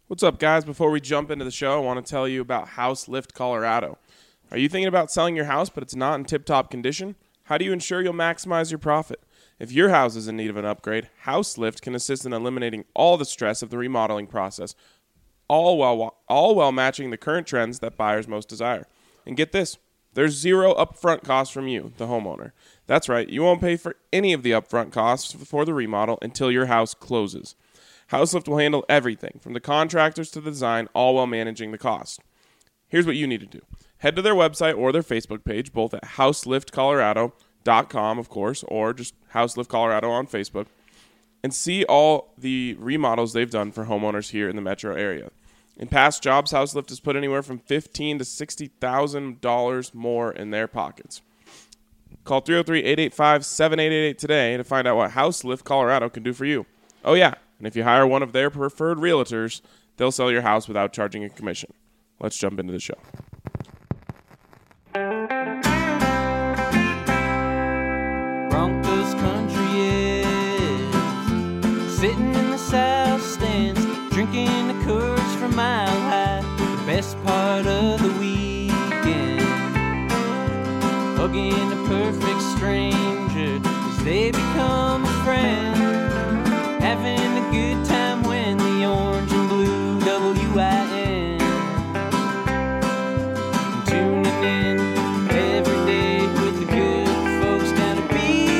What's up, guys? Before we jump into the show, I want to tell you about House Lift Colorado. Are you thinking about selling your house, but it's not in tip-top condition? How do you ensure you'll maximize your profit? If your house is in need of an upgrade, House Lift can assist in eliminating all the stress of the remodeling process, all while matching the current trends that buyers most desire. And get this, there's zero upfront costs from you, the homeowner. That's right, you won't pay for any of the upfront costs for the remodel until your house closes. HouseLift will handle everything, from the contractors to the design, all while managing the cost. Here's what you need to do. Head to their website or their Facebook page, both at houseliftcolorado.com, of course, or just HouseLift Colorado on Facebook, and see all the remodels they've done for homeowners here in the metro area. In past jobs, HouseLift has put anywhere from $15,000 to $60,000 more in their pockets. Call 303-885-7888 today to find out what HouseLift Colorado can do for you. Oh, yeah. And if you hire one of their preferred realtors, they'll sell your house without charging a commission. Let's jump into the show. Broncos country is sitting in the south stands, drinking the Coors from Mile High. The best part of the weekend, hugging a perfect stranger as they become a friend. Having a good time when the orange and blue WIN. Tuning in every day with the good folks down at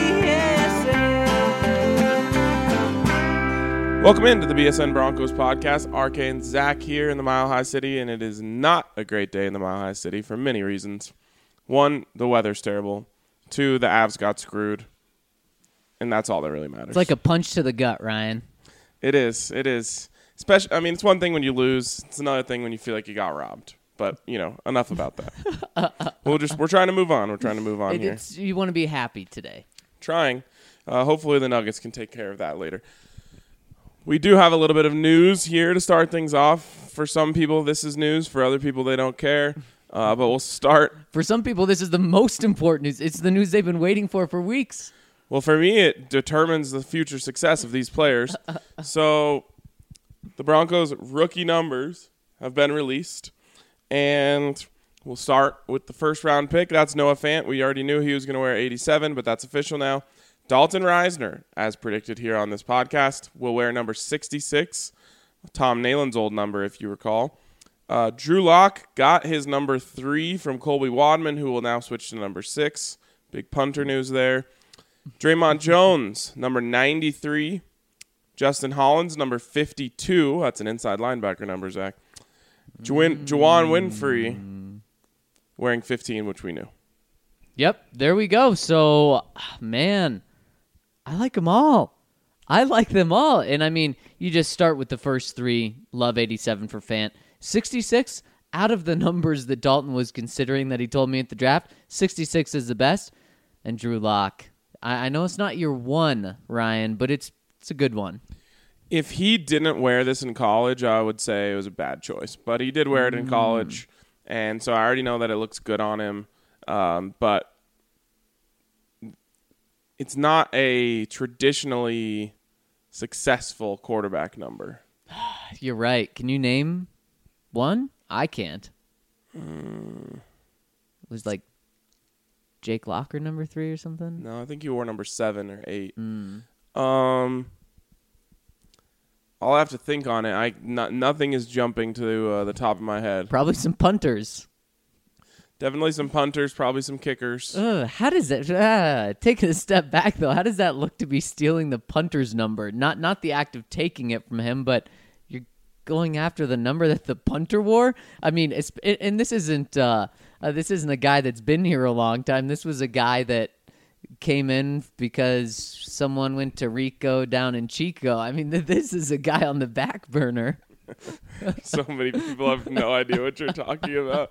BSN. Welcome into the BSN Broncos podcast. RK and Zach here in the Mile High City, and it is not a great day in the Mile High City for many reasons. One, the weather's terrible. Two, the Avs got screwed. And that's all that really matters. It's like a punch to the gut, Ryan. It is. Especially, I mean, it's one thing when you lose. It's another thing when you feel like you got robbed. But, enough about that. We're trying to move on. We're trying to move on here. You want to be happy today. Trying. Hopefully the Nuggets can take care of that later. We do have a little bit of news here to start things off. For some people, this is news. For other people, they don't care. But we'll start. For some people, this is the most important news. It's the news they've been waiting for weeks. Well, for me, it determines the future success of these players. So the Broncos' rookie numbers have been released, and we'll start with the first-round pick. That's Noah Fant. We already knew he was going to wear 87, but that's official now. Dalton Reisner, as predicted here on this podcast, will wear number 66, Tom Nayland's old number, if you recall. Drew Lock got his number 3 from Colby Wadman, who will now switch to number 6. Big punter news there. Draymond Jones, number 93. Justin Hollins, number 52. That's an inside linebacker number, Zach. Juwan Winfrey wearing 15, which we knew. Yep, there we go. So, man, I like them all. I like them all. And, I mean, you just start with the first 3. Love 87 for Fant. 66, out of the numbers that Dalton was considering that he told me at the draft, 66 is the best. And Drew Lock. I know it's not your one, Ryan, but it's a good one. If he didn't wear this in college, I would say it was a bad choice. But he did wear it in college, and so I already know that it looks good on him. But it's not a traditionally successful quarterback number. You're right. Can you name one? I can't. It was like Jake Locker number 3 or something? No, I think he wore number 7 or 8. I'll have to think on it. Nothing is jumping to the top of my head. Probably some punters. Definitely some punters, probably some kickers. How does that, taking a step back though, how does that look to be stealing the punter's number? Not the act of taking it from him, but you're going after the number that the punter wore? I mean, and this isn't a guy that's been here a long time. This was a guy that came in because someone went to Rico down in Chico. I mean, this is a guy on the back burner. So many people have no idea what you're talking about.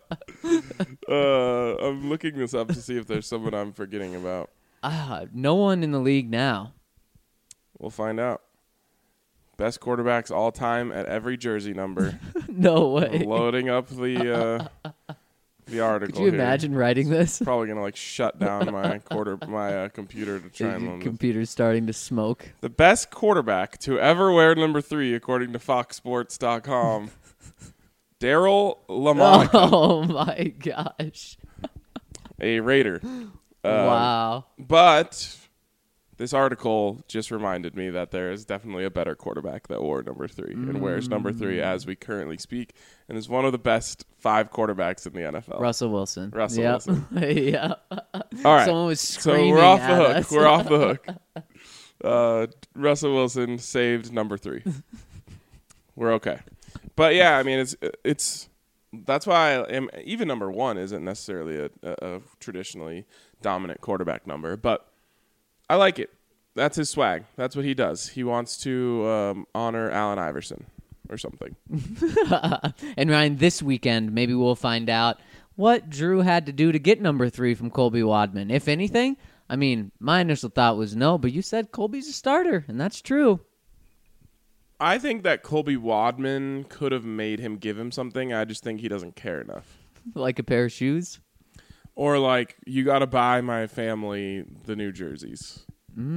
I'm looking this up to see if there's someone I'm forgetting about. No one in the league now. We'll find out. Best quarterbacks all time at every jersey number. No way. I'm loading up the the article. Could you here. imagine writing this? Probably gonna like shut down my computer to try and Your learn this. computer's starting to smoke. The best quarterback to ever wear number 3, according to FoxSports.com, Daryl LaMonica, Oh my gosh! a Raider. Wow. But this article just reminded me that there is definitely a better quarterback that wore number 3 and wears number 3 as we currently speak, and is one of the best 5 quarterbacks in the NFL. Russell Wilson. Russell Yep. Wilson. Yeah. All right. Someone was So screaming we're off at the hook. us. We're off the hook. Russell Wilson saved number 3. We're okay. But yeah, I mean, it's that's why even number 1 isn't necessarily a traditionally dominant quarterback number, but I like it. That's his swag. That's what he does. He wants to honor Allen Iverson or something. And Ryan, this weekend, maybe we'll find out what Drew had to do to get number 3 from Colby Wadman. If anything, I mean, my initial thought was no, but you said Colby's a starter, and that's true. I think that Colby Wadman could have made him give him something. I just think he doesn't care enough. Like a pair of shoes. Or like, you got to buy my family the new jerseys.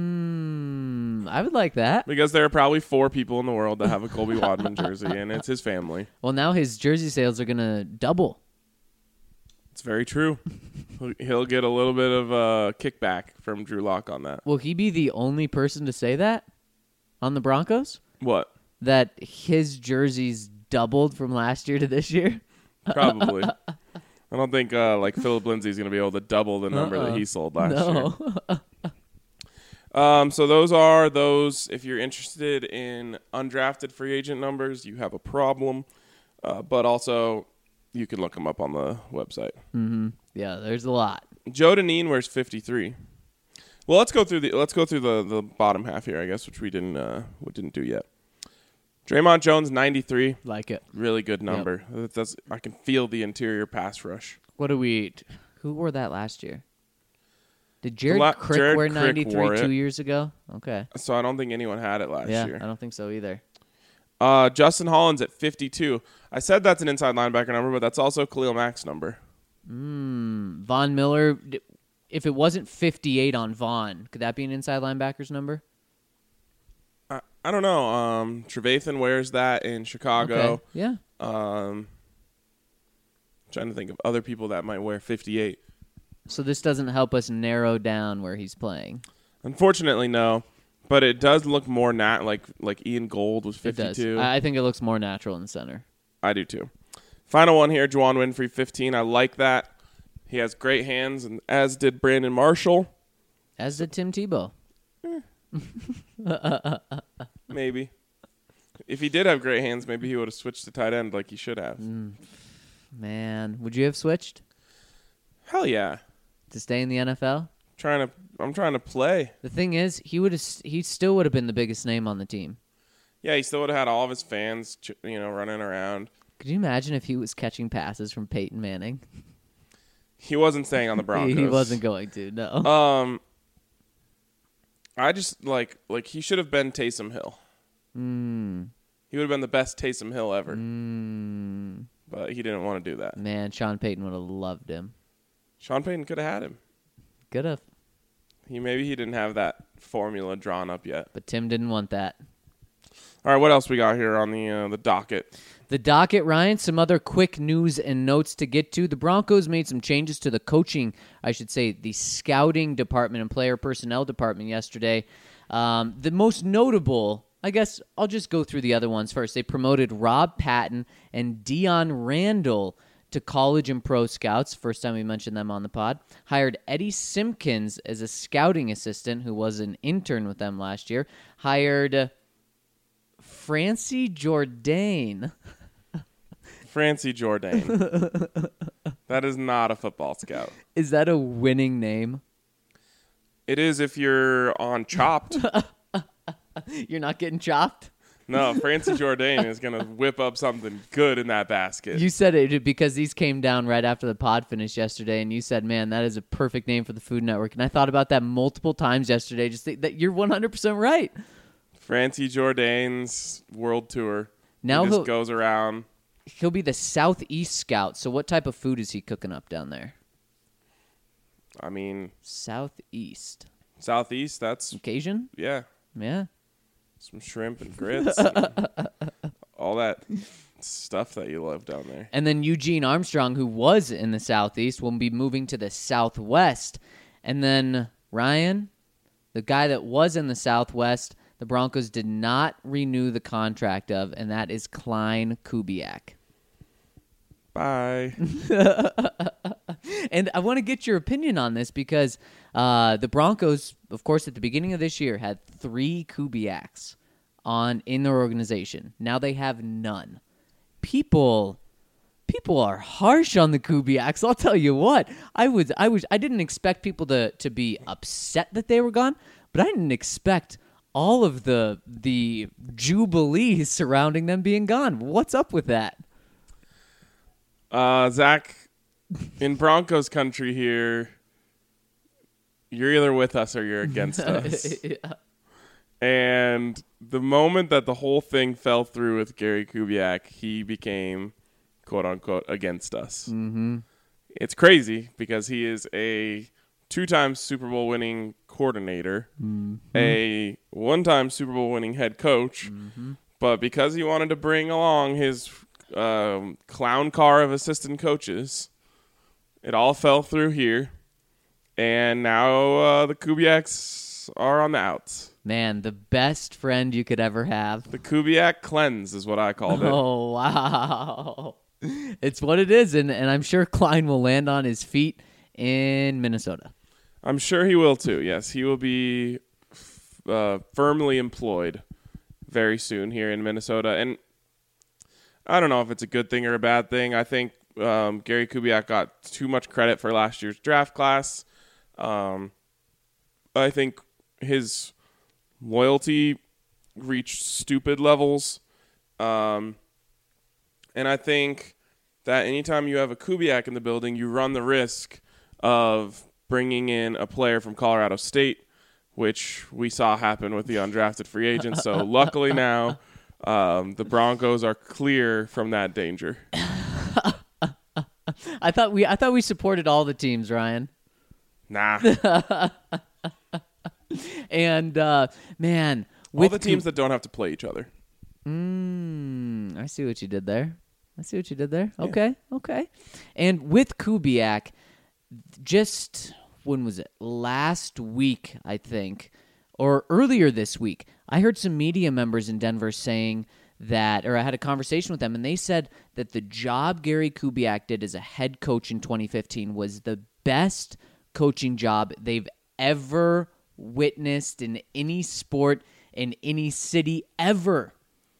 I would like that. Because there are probably 4 people in the world that have a Colby Wadman jersey, and it's his family. Well, now his jersey sales are going to double. It's very true. He'll get a little bit of a kickback from Drew Lock on that. Will he be the only person to say that on the Broncos? What? That his jerseys doubled from last year to this year? Probably. I don't think like Philip Lindsay's going to be able to double the number that he sold last year. So those are those. If you're interested in undrafted free agent numbers, you have a problem. But also, you can look them up on the website. Mm-hmm. Yeah, there's a lot. Joe Deneen wears 53. Well, let's go through the bottom half here, I guess, which we didn't do yet. Draymond Jones 93, Like it. really good number. That's I can feel the interior pass rush. What do we? Who wore that last year? Did Jared Crick Jared wear Crick 93 wore it. 2 years ago? Okay. So I don't think anyone had it last Yeah, year. I don't think so either. Justin Hollins at 52. I said that's an inside linebacker number, but that's also Khalil Mack's number. Von Miller, if it wasn't 58 on Von, could that be an inside linebacker's number? I don't know. Trevathan wears that in Chicago. Okay. Yeah. Trying to think of other people that might wear 58. So this doesn't help us narrow down where he's playing. Unfortunately, no. But it does look more like Ian Gold was It 52. does. I think it looks more natural in the center. I do too. Final one here, Juwan Winfrey, 15. I like that. He has great hands, and as did Brandon Marshall. As did Tim Tebow. Maybe. If he did have great hands, maybe he would have switched to tight end like he should have. Man, would you have switched Hell yeah. to stay in the NFL? I'm trying to play. The thing is, he still would have been the biggest name on the team. Yeah, he still would have had all of his fans, running around. Could you imagine if he was catching passes from Peyton Manning? He wasn't staying on the Broncos. He wasn't going to, no. I just like he should have been Taysom Hill. He would have been the best Taysom Hill ever. But he didn't want to do that. Man, Sean Payton would have loved him. Sean Payton could have had him. Could have. Maybe he didn't have that formula drawn up yet. But Tim didn't want that. All right, what else we got here on the docket? The docket, Ryan, some other quick news and notes to get to. The Broncos made some changes to the coaching, I should say, the scouting department and player personnel department yesterday. The most notable, I guess I'll just go through the other ones first. They promoted Rob Patton and Dion Randall to college and pro scouts. First time we mentioned them on the pod. Hired Eddie Simpkins as a scouting assistant, who was an intern with them last year. Hired Francie Jourdain. Francie Jourdain. That is not a football scout. Is that a winning name? It is if you're on Chopped. You're not getting chopped? No, Francie Jourdain is going to whip up something good in that basket. You said it because these came down right after the pod finished yesterday, and you said, man, that is a perfect name for the Food Network. And I thought about that multiple times yesterday. Just think that you're 100% right. Francie Jourdain's world tour. Now he he'll- just goes around he'll be the Southeast scout. So what type of food is he cooking up down there? I mean, Southeast. Southeast, that's, Cajun? yeah, Yeah. some shrimp and grits. and all that stuff that you love down there. And then Eugene Armstrong, who was in the Southeast, will be moving to the Southwest. And then Ryan, the guy that was in the Southwest, the Broncos did not renew the contract of, and that is Klein Kubiak. Bye. And I want to get your opinion on this because the Broncos, of course, at the beginning of this year had 3 Kubiaks in their organization. Now they have none. People are harsh on the Kubiaks. I'll tell you what. I didn't expect people to be upset that they were gone, but I didn't expect all of the jubilee surrounding them being gone. What's up with that? Zach, in Broncos country here, you're either with us or you're against us. Yeah. And the moment that the whole thing fell through with Gary Kubiak, he became, quote unquote, against us. Mm-hmm. It's crazy because he is a 2-time Super Bowl winning coordinator, a 1-time Super Bowl winning head coach, but because he wanted to bring along his clown car of assistant coaches, it all fell through here, and now the Kubiaks are on the outs. Man, the best friend you could ever have. The Kubiak cleanse is what I called it. Oh, wow. It's what it is, and I'm sure Klein will land on his feet in Minnesota. I'm sure he will too, yes. He will be firmly employed very soon here in Minnesota, and I don't know if it's a good thing or a bad thing. I think Gary Kubiak got too much credit for last year's draft class. I think his loyalty reached stupid levels. And I think that anytime you have a Kubiak in the building, you run the risk of bringing in a player from Colorado State, which we saw happen with the undrafted free agent. So luckily now the Broncos are clear from that danger. I thought we supported all the teams, Ryan. Nah. And man, all the teams that don't have to play each other. I see what you did there. Yeah. Okay. And with Kubiak, just when was it? Last week, I think, or earlier this week, I heard some media members in Denver saying that, or I had a conversation with them, and they said that the job Gary Kubiak did as a head coach in 2015 was the best coaching job they've ever witnessed in any sport in any city ever.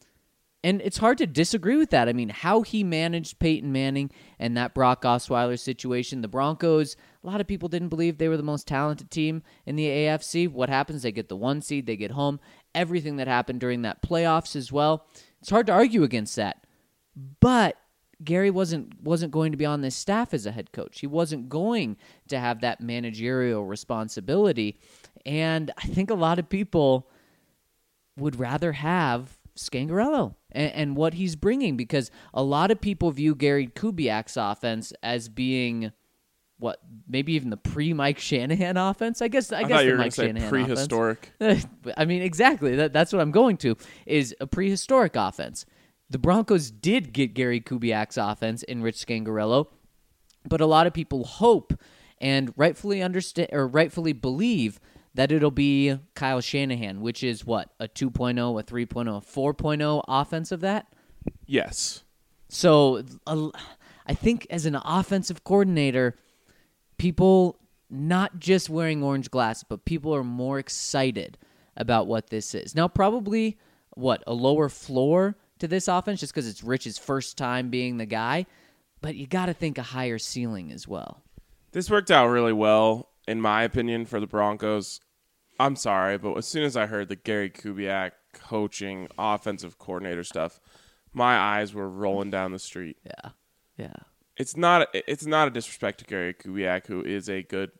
And it's hard to disagree with that. I mean, how he managed Peyton Manning and that Brock Osweiler situation. The Broncos, a lot of people didn't believe they were the most talented team in the AFC. What happens? They get the 1 seed, they get home. Everything that happened during that playoffs as well. It's hard to argue against that. But Gary wasn't going to be on this staff as a head coach. He wasn't going to have that managerial responsibility. And I think a lot of people would rather have Scangarello and what he's bringing, because a lot of people view Gary Kubiak's offense as being what, maybe even the pre-Mike Shanahan offense. I guess thought the you were Mike going to say Shanahan prehistoric. offense. I mean, exactly. That's what I'm going to, is a prehistoric offense. The Broncos did get Gary Kubiak's offense in Rich Scangarello, but a lot of people hope and rightfully understand or rightfully believe that it'll be Kyle Shanahan, which is what, a 2.0, a 3.0, a 4.0 offense of that? Yes. So I think as an offensive coordinator, people not just wearing orange glasses, but people are more excited about what this is. Now, probably, a lower floor to this offense just because it's Rich's first time being the guy, but you got to think a higher ceiling as well. This worked out really well, in my opinion, for the Broncos. I'm sorry, but as soon as I heard the Gary Kubiak coaching offensive coordinator stuff, my eyes were rolling down the street. Yeah. It's not a disrespect to Gary Kubiak, who is a good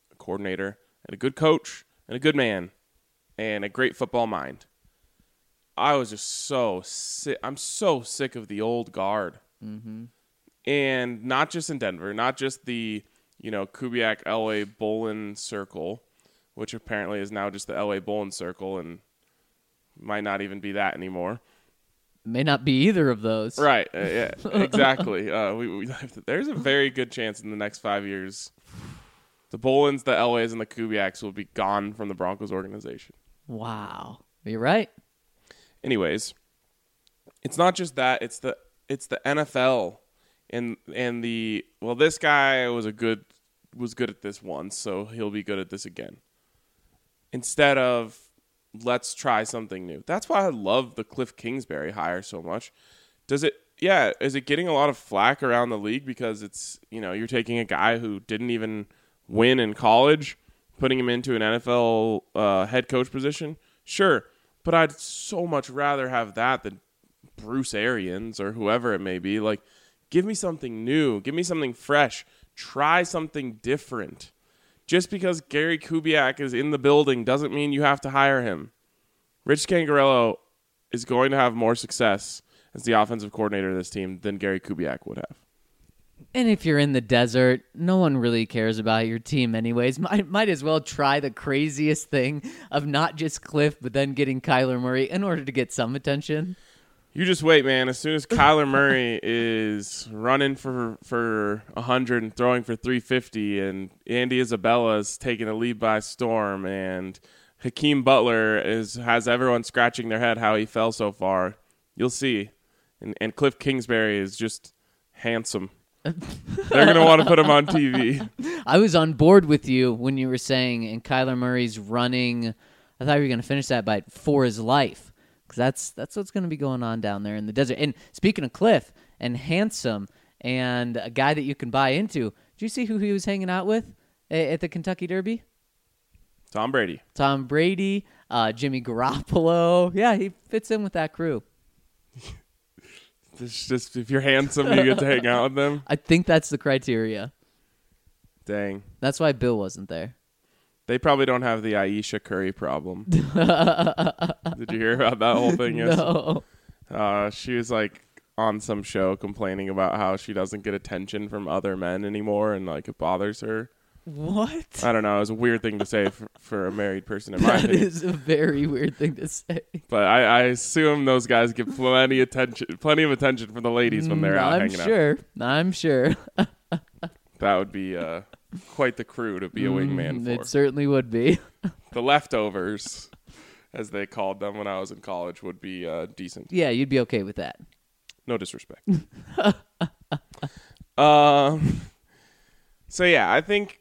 coordinator and a good coach and a good man and a great football mind. I was just so sick. I'm so sick of the old guard. Mm-hmm. And not just in Denver, not just the, Kubiak, Elway, Bolin circle, which apparently is now just the Elway, Bolin circle and might not even be that anymore. May not be either of those. Right. Yeah, exactly. There's a very good chance in the next 5 years the Bolins, the Elways, and the Kubiaks will be gone from the Broncos organization. Wow. You're right. Anyways, it's not just that. It's the NFL and this guy was good at this once, so he'll be good at this again. Instead of let's try something new. That's why I love the Cliff Kingsbury hire so much. Is it getting a lot of flack around the league because it's, you're taking a guy who didn't even win in college, putting him into an NFL head coach position? Sure, but I'd so much rather have that than Bruce Arians or whoever it may be. Like, give me something new. Give me something fresh. Try something different. Just because Gary Kubiak is in the building doesn't mean you have to hire him. Rich Scangarello is going to have more success as the offensive coordinator of this team than Gary Kubiak would have. And if you're in the desert, no one really cares about your team anyways. Might as well try the craziest thing of not just Cliff, but then getting Kyler Murray in order to get some attention. You just wait, man. As soon as Kyler Murray is running for 100 and throwing for 350, and Andy Isabella is taking the lead by storm, and Hakeem Butler has everyone scratching their head how he fell so far, you'll see. And Cliff Kingsbury is just handsome. They're going to want to put him on TV. I was on board with you when you were saying, and Kyler Murray's running, I thought you were going to finish that by for his life. Because that's what's going to be going on down there in the desert. And speaking of Cliff and handsome and a guy that you can buy into, did you see who he was hanging out with at the Kentucky Derby? Tom Brady, Jimmy Garoppolo. Yeah, he fits in with that crew. It's just if you're handsome, you get to hang out with them. I think that's the criteria. Dang. That's why Bill wasn't there. They probably don't have the Aisha Curry problem. Did you hear about that whole thing yesterday? No. She was like on some show complaining about how she doesn't get attention from other men anymore and like it bothers her. What? I don't know. It was a weird thing to say for a married person in my opinion. That is a very weird thing to say. But I assume those guys get plenty of attention from the ladies when they're out hanging out. I'm sure. That would be quite the crew to be a wingman for. It certainly would be. The leftovers, as they called them when I was in college, would be decent. Yeah, you'd be okay with that. No disrespect. So yeah, I think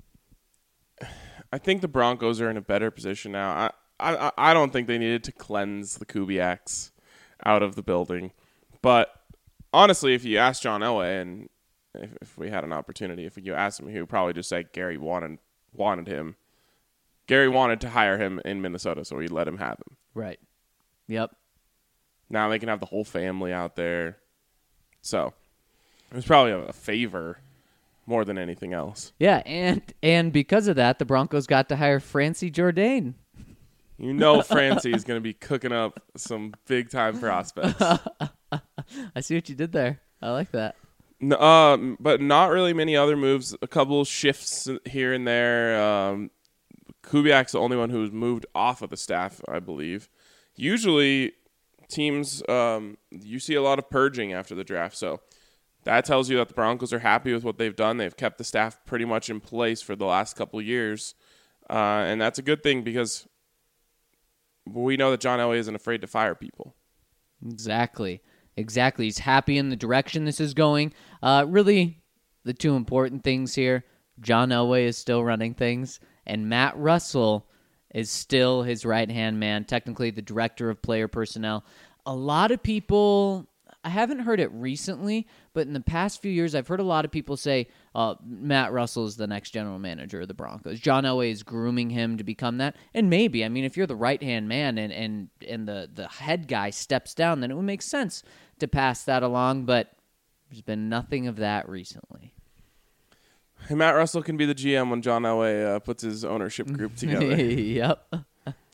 the Broncos are in a better position now. I don't think they needed to cleanse the Kubiaks out of the building. But honestly, if you ask John Elway, and if we had an opportunity, if you asked him, he would probably just say Gary wanted him. Gary wanted to hire him in Minnesota, so he let him have him. Right. Yep. Now they can have the whole family out there. So it was probably a favor more than anything else. Yeah, and because of that, the Broncos got to hire Francie Jourdain. You know Francie is going to be cooking up some big-time prospects. I see what you did there. I like that. No, but not really many other moves. A couple shifts here and there. Kubiak's the only one who's moved off of the staff, I believe. Usually, teams, you see a lot of purging after the draft, so that tells you that the Broncos are happy with what they've done. They've kept the staff pretty much in place for the last couple of years, and that's a good thing because we know that John Elway isn't afraid to fire people. Exactly. He's happy in the direction this is going. Really, the two important things here, John Elway is still running things, and Matt Russell is still his right-hand man, technically the director of player personnel. A lot of people, I haven't heard it recently, but in the past few years, I've heard a lot of people say Matt Russell is the next general manager of the Broncos. John Elway is grooming him to become that. And maybe, I mean, if you're the right-hand man and the head guy steps down, then it would make sense to pass that along, but there's been nothing of that recently. Hey, Matt Russell can be the GM when John Elway puts his ownership group together. Yep.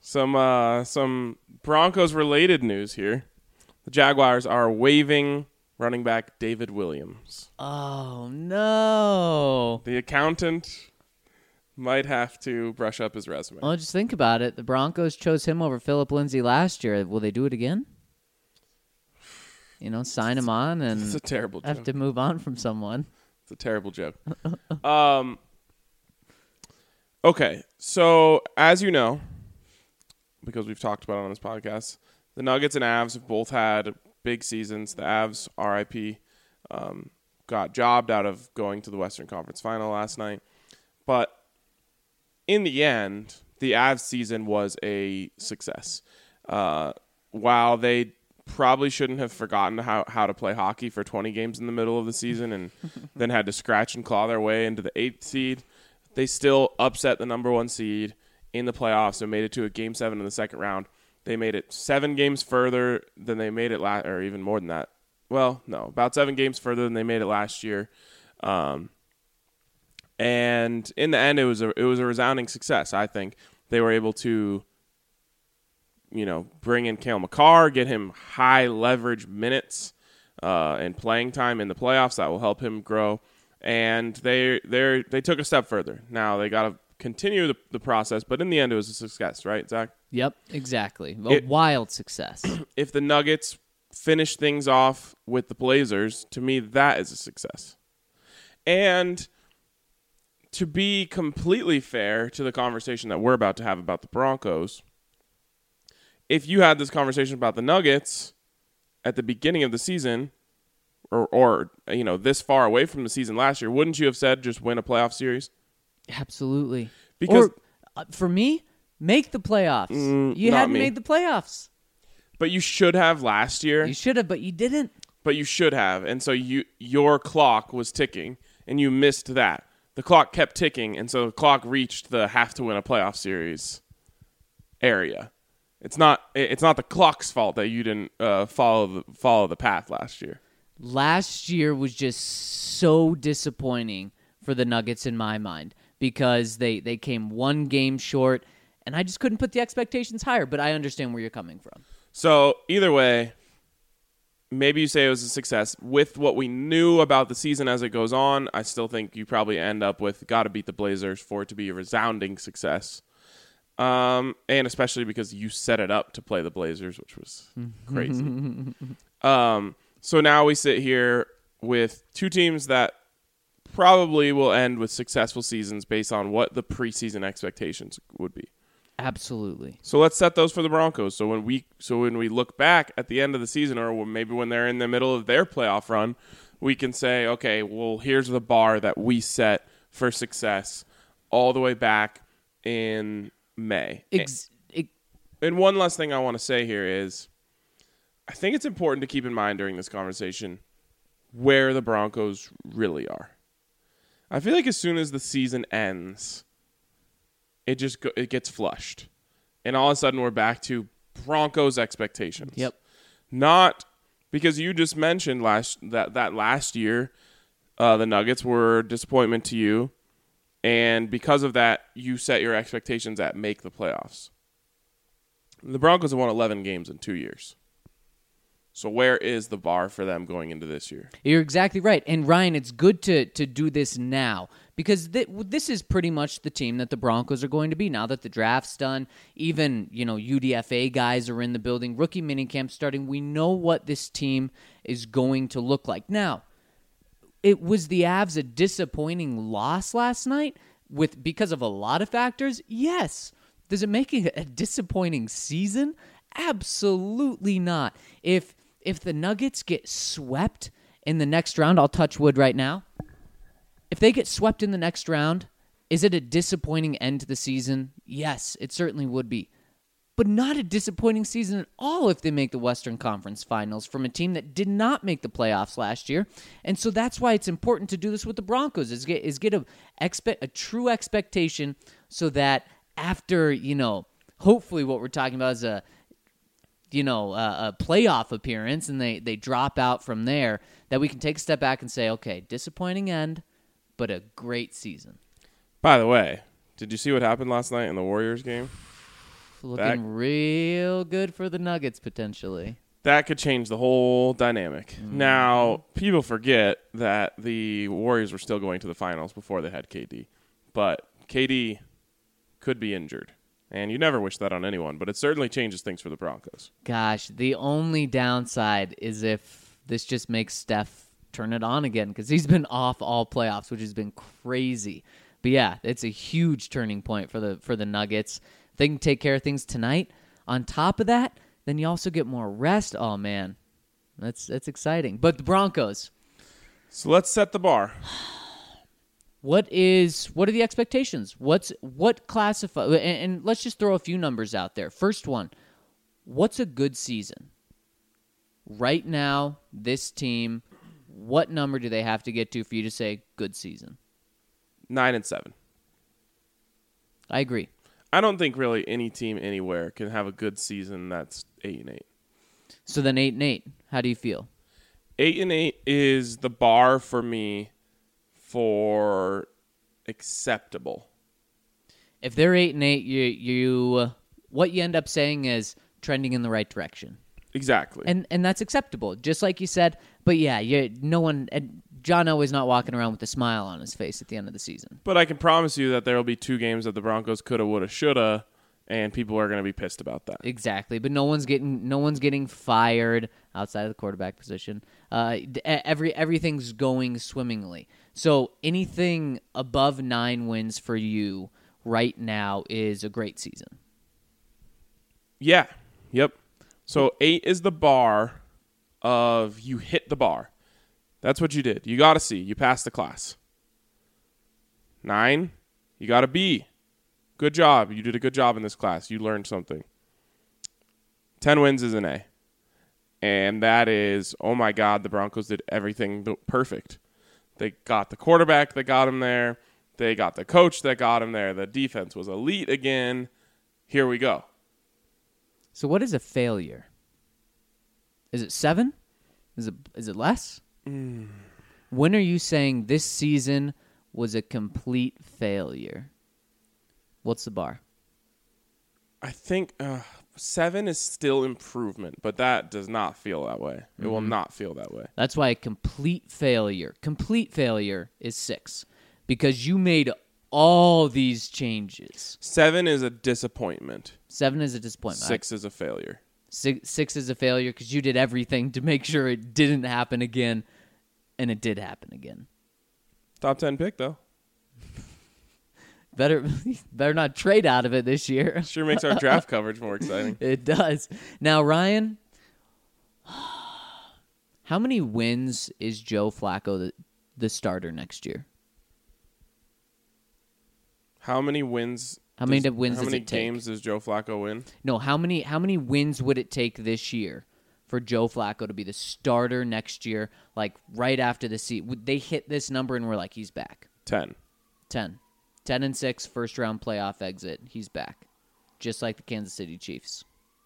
Some Broncos related news here. The Jaguars are waiving running back David Williams. Oh, no. The accountant might have to brush up his resume. Well, just think about it. The Broncos chose him over Phillip Lindsay last year. Will they do it again? Sign him on and It's a terrible have joke. to move on from someone. It's a terrible joke. Okay, so as you know, because we've talked about it on this podcast, the Nuggets and Avs have both had big seasons. The Avs, RIP, got jobbed out of going to the Western Conference Final last night. But in the end, the Avs season was a success. While they probably shouldn't have forgotten how to play hockey for 20 games in the middle of the season and then had to scratch and claw their way into the 8th seed, they still upset the number 1 seed in the playoffs and made it to a Game 7 in the second round. They made it 7 games further than they made it last, or even more than that. Well, no, about 7 games further than they made it last year. And in the end, it was a resounding success. I think they were able to, bring in Cale Makar, get him high leverage minutes and playing time in the playoffs that will help him grow. And they took a step further. Now they got to continue the process, but in the end, it was a success, right, Zach? Yep, exactly. A wild success. If the Nuggets finish things off with the Blazers, to me, that is a success. And to be completely fair to the conversation that we're about to have about the Broncos, if you had this conversation about the Nuggets at the beginning of the season, or this far away from the season last year, wouldn't you have said just win a playoff series? Absolutely. Because for me, make the playoffs. You not hadn't me. made the playoffs. But you should have last year. You should have, but you didn't. But you should have. And so your clock was ticking, and you missed that. The clock kept ticking, and so the clock reached the have to win a playoff series area. It's not the clock's fault that you didn't follow the path last year. Last year was just so disappointing for the Nuggets in my mind because they came 1 game short, and I just couldn't put the expectations higher, but I understand where you're coming from. So either way, maybe you say it was a success. With what we knew about the season as it goes on, I still think you probably end up with got to beat the Blazers for it to be a resounding success. And especially because you set it up to play the Blazers, which was crazy. So now we sit here with 2 teams that probably will end with successful seasons based on what the preseason expectations would be. Absolutely. So let's set those for the Broncos. So when we look back at the end of the season, or maybe when they're in the middle of their playoff run, we can say, okay, well, here's the bar that we set for success all the way back in May. And one last thing I want to say here is I think it's important to keep in mind during this conversation where the Broncos really are. I feel like as soon as the season ends, it gets flushed. And all of a sudden we're back to Broncos expectations. Yep. Not because you just mentioned that last year the Nuggets were a disappointment to you. And because of that, you set your expectations at make the playoffs. The Broncos have won 11 games in 2 years. So where is the bar for them going into this year? You're exactly right. And Ryan, it's good to do this now because this is pretty much the team that the Broncos are going to be now that the draft's done. Even, UDFA guys are in the building. Rookie minicamp starting. We know what this team is going to look like. Now, it was the Avs a disappointing loss last night because of a lot of factors? Yes. Does it make it a disappointing season? Absolutely not. If the Nuggets get swept in the next round, I'll touch wood right now. If they get swept in the next round, is it a disappointing end to the season? Yes, it certainly would be. But not a disappointing season at all if they make the Western Conference Finals from a team that did not make the playoffs last year. And so that's why it's important to do this with the Broncos, is get a true expectation so that after, hopefully what we're talking about is a playoff appearance and they drop out from there, that we can take a step back and say, okay, disappointing end, but a great season. By the way, did you see what happened last night in the Warriors game? Looking real good for the Nuggets, potentially. That could change the whole dynamic. Now, people forget that the Warriors were still going to the finals before they had KD. But KD could be injured. And you never wish that on anyone, but it certainly changes things for the Broncos. Gosh, the only downside is if this just makes Steph turn it on again, because he's been off all playoffs, which has been crazy. But yeah, it's a huge turning point for the Nuggets. If they can take care of things tonight, on top of that, then you also get more rest. Oh man, that's exciting. But the Broncos, So let's set the bar. what are the expectations? What classify? And let's just throw a few numbers out there. First one, what's a good season? Right now, this team, what number do they have to get to for you to say good season? 9-7. I agree. I don't think really any team anywhere can have a good season that's 8-8. So then 8-8. How do you feel? 8-8 is the bar for me for acceptable. If they're 8-8, you what you end up saying is trending in the right direction. Exactly. And that's acceptable, just like you said. But yeah, no one. John Elway's not walking around with a smile on his face at the end of the season. But I can promise you that there will be 2 games that the Broncos coulda, woulda, shoulda, and people are going to be pissed about that. Exactly, but no one's getting fired outside of the quarterback position. Everything's going swimmingly. So anything above 9 wins for you right now is a great season. Yeah. Yep. So 8 is the bar of you hit the bar. That's what you did. You got a C. You passed the class. 9, you got a B. Good job. You did a good job in this class. You learned something. 10 wins is an A. And that is, oh my God, the Broncos did everything perfect. They got the quarterback that got him there. They got the coach that got him there. The defense was elite again. Here we go. So what is a failure? Is it 7? Is it less? When are you saying this season was a complete failure? What's the bar? I think 7 is still improvement, but that does not feel that way. It will not feel that way. That's why a complete failure is 6, because you made all these changes. 7 is a disappointment. 7 is a disappointment. 6 is a failure. 6 is a failure because you did everything to make sure it didn't happen again, and it did happen again. Top 10 pick, though. Better not trade out of it this year. Sure makes our draft coverage more exciting. It does. Now, Ryan, how many wins is Joe Flacco the starter next year? How many wins? How many How wins many does it take? games does Joe Flacco win? No, how many wins would it take this year for Joe Flacco to be the starter next year, like right after the season? Would they hit this number and we're like, he's back? 10. 10-6, first-round playoff exit. He's back, just like the Kansas City Chiefs.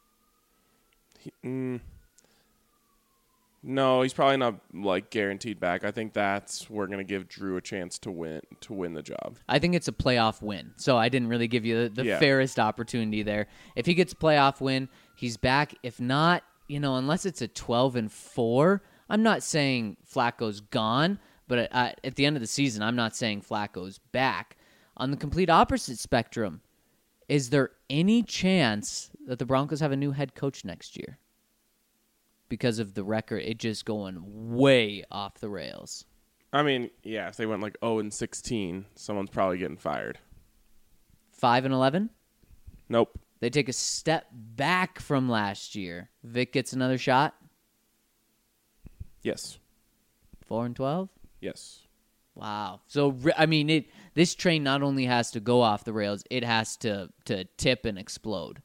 No, he's probably not like guaranteed back. I think we're going to give Drew a chance to win the job. I think it's a playoff win, so I didn't really give you the Yeah. fairest opportunity there. If he gets a playoff win, he's back. If not, unless it's a 12-4, I'm not saying Flacco's gone, but at the end of the season, I'm not saying Flacco's back. On the complete opposite spectrum, is there any chance that the Broncos have a new head coach next year? Because of the record, it just going way off the rails. I mean, yeah, if they went like 0-16, someone's probably getting fired. 5-11? Nope. They take a step back from last year. Vic gets another shot. Yes. 4-12? Yes. Wow. So, this train not only has to go off the rails, it has to tip and explode.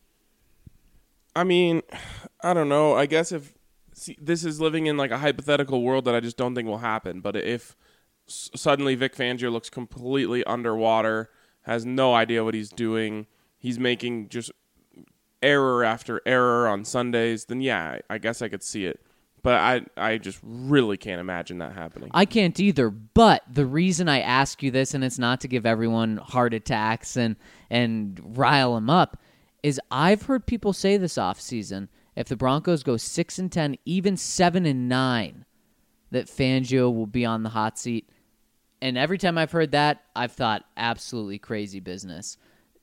I mean, I don't know. I guess this is living in like a hypothetical world that I just don't think will happen. But if suddenly Vic Fangio looks completely underwater, has no idea what he's doing, he's making just error after error on Sundays, then yeah, I guess I could see it. But I just really can't imagine that happening. I can't either, but the reason I ask you this, and it's not to give everyone heart attacks and rile them up, is I've heard people say this offseason, if the Broncos go 6-10, even 7-9, that Fangio will be on the hot seat. And every time I've heard that, I've thought absolutely crazy business.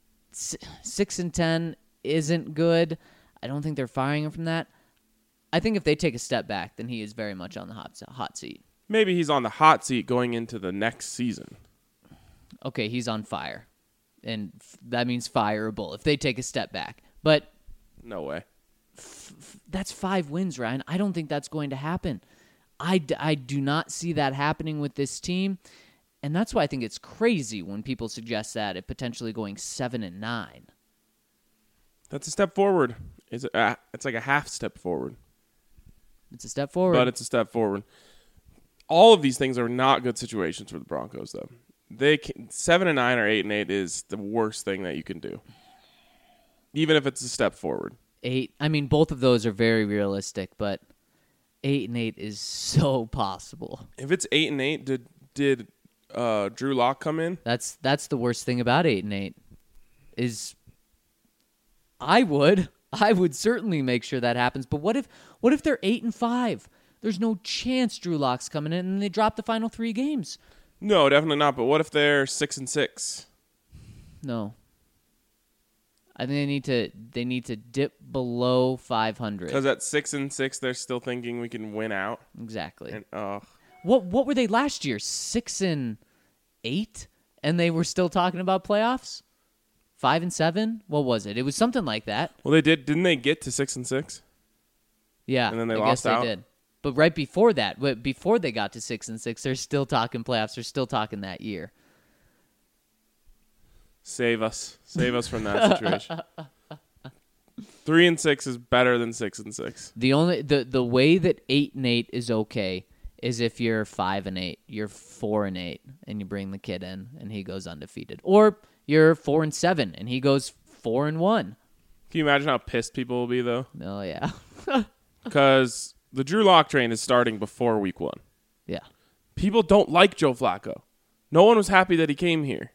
6-10 isn't good. I don't think they're firing him from that. I think if they take a step back, then he is very much on the hot seat. Maybe he's on the hot seat going into the next season. Okay, he's on fire. And that means fireable if they take a step back. But No way. that's 5 wins, Ryan. I don't think that's going to happen. I do not see that happening with this team. And that's why I think it's crazy when people suggest that it potentially going 7-9. That's a step forward. It's like a half step forward. It's a step forward. But it's a step forward. All of these things are not good situations for the Broncos, though. 7-9 or 8-8 is the worst thing that you can do, even if it's a step forward. 8. I mean, both of those are very realistic, but 8-8 is so possible. If it's 8-8, did Drew Lock come in? That's the worst thing about 8-8 is I would certainly make sure that happens. But what if they're 8-5? There's no chance Drew Lock's coming in and they drop the final 3 games. No, definitely not. But what if they're 6-6? No. I think they need to dip below 500. Because at 6-6, they're still thinking we can win out. Exactly. And What were they last year? 6-8, and they were still talking about playoffs. 5-7. What was it? It was something like that. Well, they did. Didn't they get to 6-6? Yeah, And then they I lost guess out? they did. But right before that, before they got to 6-6, they're still talking playoffs. They're still talking that year. Save us from that situation. 3-6 is better than 6-6. The way that 8-8 is okay is if you're 5-8, you're 4-8, and you bring the kid in and he goes undefeated, or you're 4-7 and he goes 4-1. Can you imagine how pissed people will be though? Oh yeah, Because the Drew Lock train is starting before week 1. yeah. People don't like Joe Flacco. No one was happy that he came here.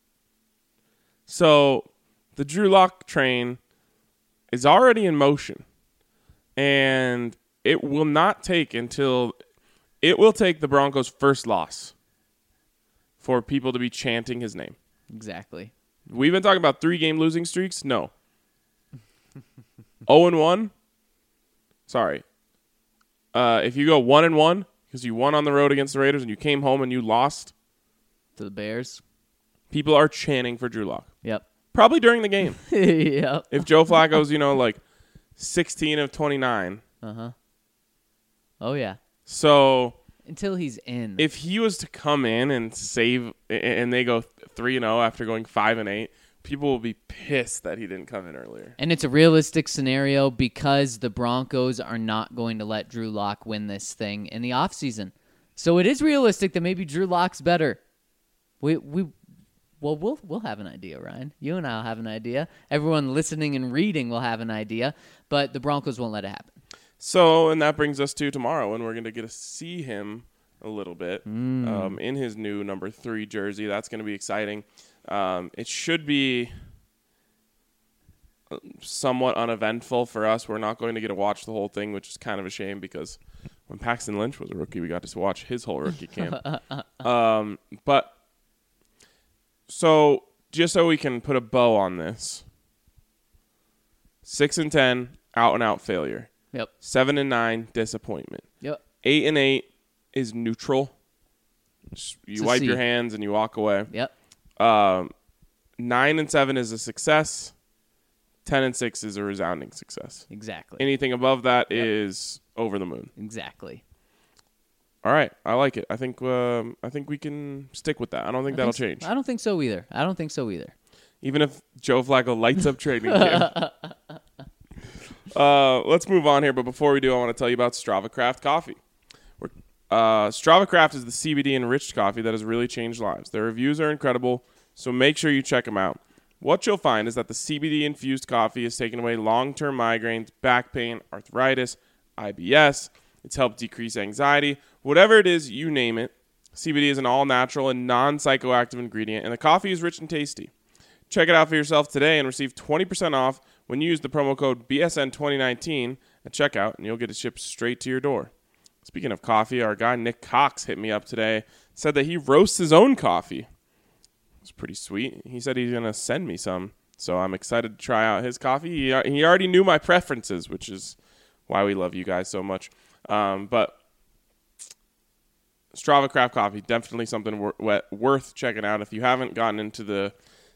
So the Drew Lock train is already in motion. And it will take the Broncos' first loss for people to be chanting his name. Exactly. We've been talking about 3-game losing streaks? No. 0-1? Sorry. If you go 1-1 because you won on the road against the Raiders and you came home and you lost To the Bears. people are chanting for Drew Lock. Yep. Probably during the game. Yep. If Joe Flacco's, like 16 of 29. Oh yeah. So Until he's in. if he was to come in and save and they go 3-0 after going 5-8, people will be pissed that he didn't come in earlier. And it's a realistic scenario because the Broncos are not going to let Drew Lock win this thing in the offseason. So it is realistic that maybe Drew Lock's better. We'll have an idea, Ryan. You and I'll have an idea. Everyone listening and reading will have an idea, but the Broncos won't let it happen. So, and that brings us to tomorrow, and we're going to get to see him a little bit in his new number 3 jersey. That's going to be exciting. It should be somewhat uneventful for us. We're not going to get to watch the whole thing, which is kind of a shame because when Paxton Lynch was a rookie, we got to watch his whole rookie camp. But so just so we can put a bow on this, 6-10, out and out failure. Yep. 7-9, disappointment. Yep. 8-8 is neutral. You wipe your C. hands and you walk away. Yep. 9-7 is a success. 10-6 is a resounding success. Exactly. Anything above that is over the moon. Exactly. All right, I like it. I think we can stick with that. I don't think that'll change. I don't think so either. Even if Joe Flacco lights up training camp. Let's move on here, but before we do, I want to tell you about Strava Craft Coffee. Strava Craft is the CBD enriched coffee that has really changed lives. Their reviews are incredible, so make sure you check them out. What you'll find is that the CBD infused coffee has taken away long-term migraines, back pain, arthritis, IBS. It's helped decrease anxiety. Whatever it is, you name it. CBD is an all-natural and non-psychoactive ingredient, and the coffee is rich and tasty. Check it out for yourself today and receive 20% off when you use the promo code BSN2019 at checkout, and you'll get it shipped straight to your door. Speaking of coffee, our guy Nick Cox hit me up today, said that he roasts his own coffee. It's pretty sweet. He said he's going to send me some, so I'm excited to try out his coffee. He already knew my preferences, which is why we love you guys so much. But Strava Craft Coffee, definitely something worth checking out. If you haven't gotten into the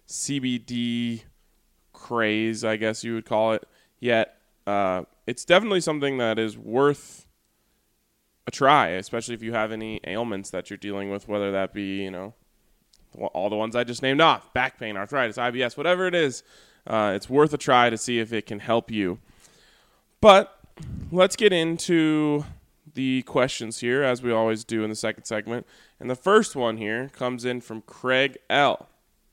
CBD craze, I guess you would call it, yet, it's definitely something that is worth a try, especially if you have any ailments that you're dealing with, whether that be, all the ones I just named off, back pain, arthritis, IBS, whatever it is. It's worth a try to see if it can help you. But let's get into the questions here, as we always do in the second segment. And the first one here comes in from Craig L.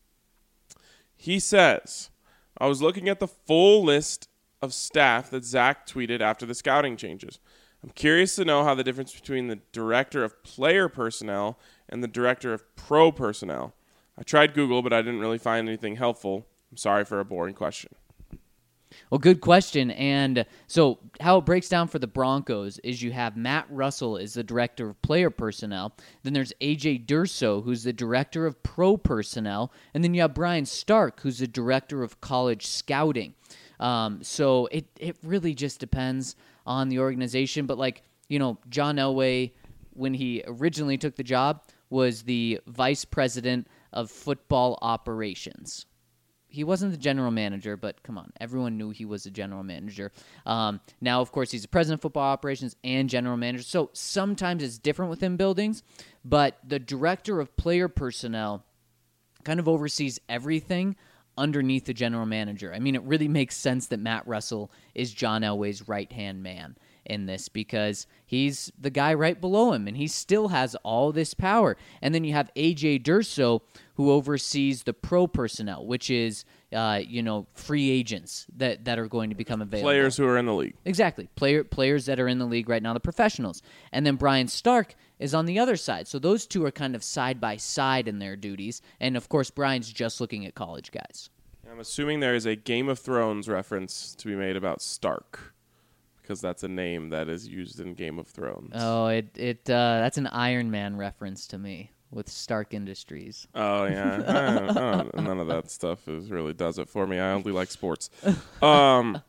He says, I was looking at the full list of staff that Zach tweeted after the scouting changes. I'm curious to know how the difference between the director of player personnel and the director of pro personnel. I tried Google, but I didn't really find anything helpful. I'm sorry for a boring question. Well, good question. And so how it breaks down for the Broncos is you have Matt Russell is the director of player personnel. Then there's A.J. Durso, who's the director of pro personnel. And then you have Brian Stark, who's the director of college scouting. So it really just depends on the organization. But John Elway, when he originally took the job, was the vice president of football operations. He wasn't the general manager, but come on, everyone knew he was a general manager. Now, of course, he's the president of football operations and general manager. So sometimes it's different within buildings, but the director of player personnel kind of oversees everything underneath the general manager. I mean, it really makes sense that Matt Russell is John Elway's right-hand man in this because he's the guy right below him, and he still has all this power. And then you have A.J. Durso, who oversees the pro personnel, which is, free agents that are going to become available. Players who are in the league. Exactly. Players that are in the league right now, the professionals. And then Brian Stark is on the other side. So those two are kind of side by side in their duties. And, of course, Brian's just looking at college guys. I'm assuming there is a Game of Thrones reference to be made about Stark, because that's a name that is used in Game of Thrones. Oh, that's an Iron Man reference to me with Stark Industries. Oh, yeah. None of that stuff really does it for me. I only like sports. So,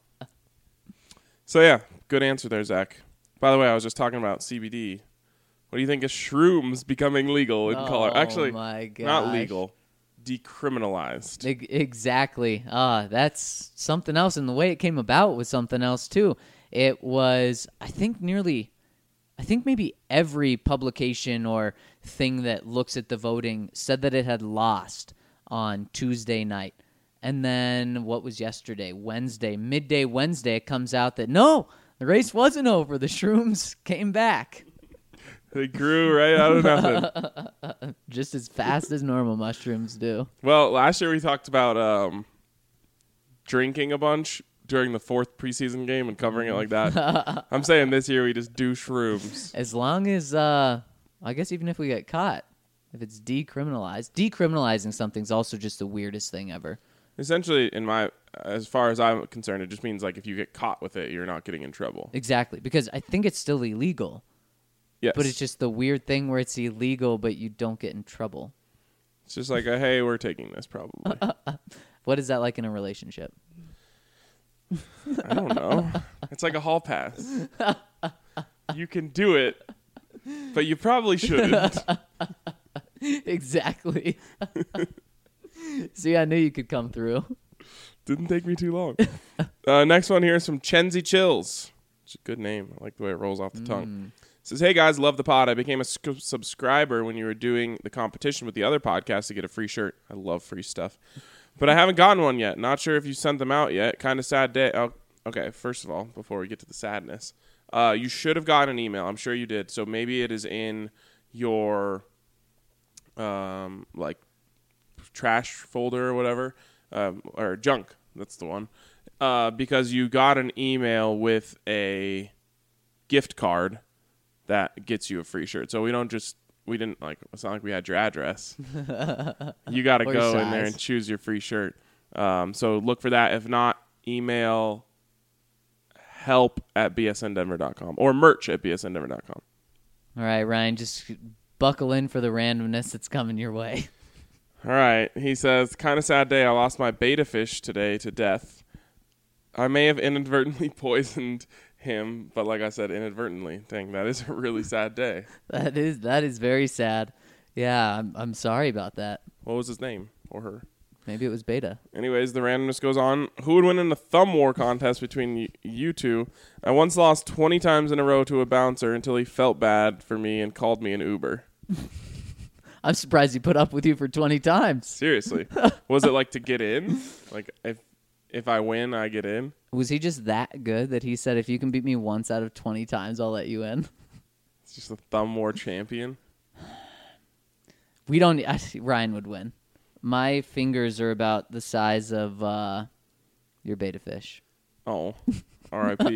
yeah, good answer there, Zach. By the way, I was just talking about CBD. What do you think of shrooms becoming legal in Colorado? Actually, my gosh. Not legal. Decriminalized. Exactly. That's something else. And the way it came about was something else, too. It was, I think maybe every publication or thing that looks at the voting said that it had lost on Tuesday night. And then what was yesterday? Midday Wednesday, it comes out that no, the race wasn't over. The shrooms came back. They grew right out of nothing. Just as fast as normal mushrooms do. Well, last year we talked about drinking a bunch during the fourth preseason game and covering it like that. I'm saying this year we just do shrooms. As long as, I guess even if we get caught, if it's decriminalized. Decriminalizing something's also just the weirdest thing ever. Essentially, as far as I'm concerned, it just means if you get caught with it, you're not getting in trouble. Exactly, because I think it's still illegal. Yes. But it's just the weird thing where it's illegal, but you don't get in trouble. It's just hey, we're taking this probably. What is that like in a relationship? I don't know. It's like a hall pass. You can do it, but you probably shouldn't. Exactly. See, I knew you could come through. Didn't take me too long. Next one here is from Chenzi Chills. It's a good name. I like the way it rolls off the tongue. Says, hey guys, love the pod. I became a subscriber when you were doing the competition with the other podcast to get a free shirt. I love free stuff. But I haven't gotten one yet. Not sure if you sent them out yet. Kind of sad day. Oh, okay, first of all, before we get to the sadness, you should have gotten an email. I'm sure you did. So maybe it is in your trash folder or whatever, or junk. That's the one. Because you got an email with a gift card that gets you a free shirt. So we didn't it's not like we had your address. You got to go in there and choose your free shirt. So look for that. If not, email help@bsndenver.com or merch@bsndenver.com. All right, Ryan, just buckle in for the randomness that's coming your way. All right. He says, kind of sad day. I lost my beta fish today to death. I may have inadvertently poisoned him, but like I said, inadvertently. Dang, that is a really sad day. That is very sad. Yeah, I'm sorry about that. What was his name or her? Maybe it was Beta. Anyways, the randomness goes on. Who would win in a thumb war contest between you two? I once lost 20 times in a row to a bouncer until he felt bad for me and called me an Uber. I'm surprised he put up with you for 20 times. Seriously. Was it like to get in? Like if I win, I get in? Was he just that good that he said, if you can beat me once out of 20 times, I'll let you in? It's just a thumb war champion. Ryan would win. My fingers are about the size of your beta fish. Oh, R.I.P.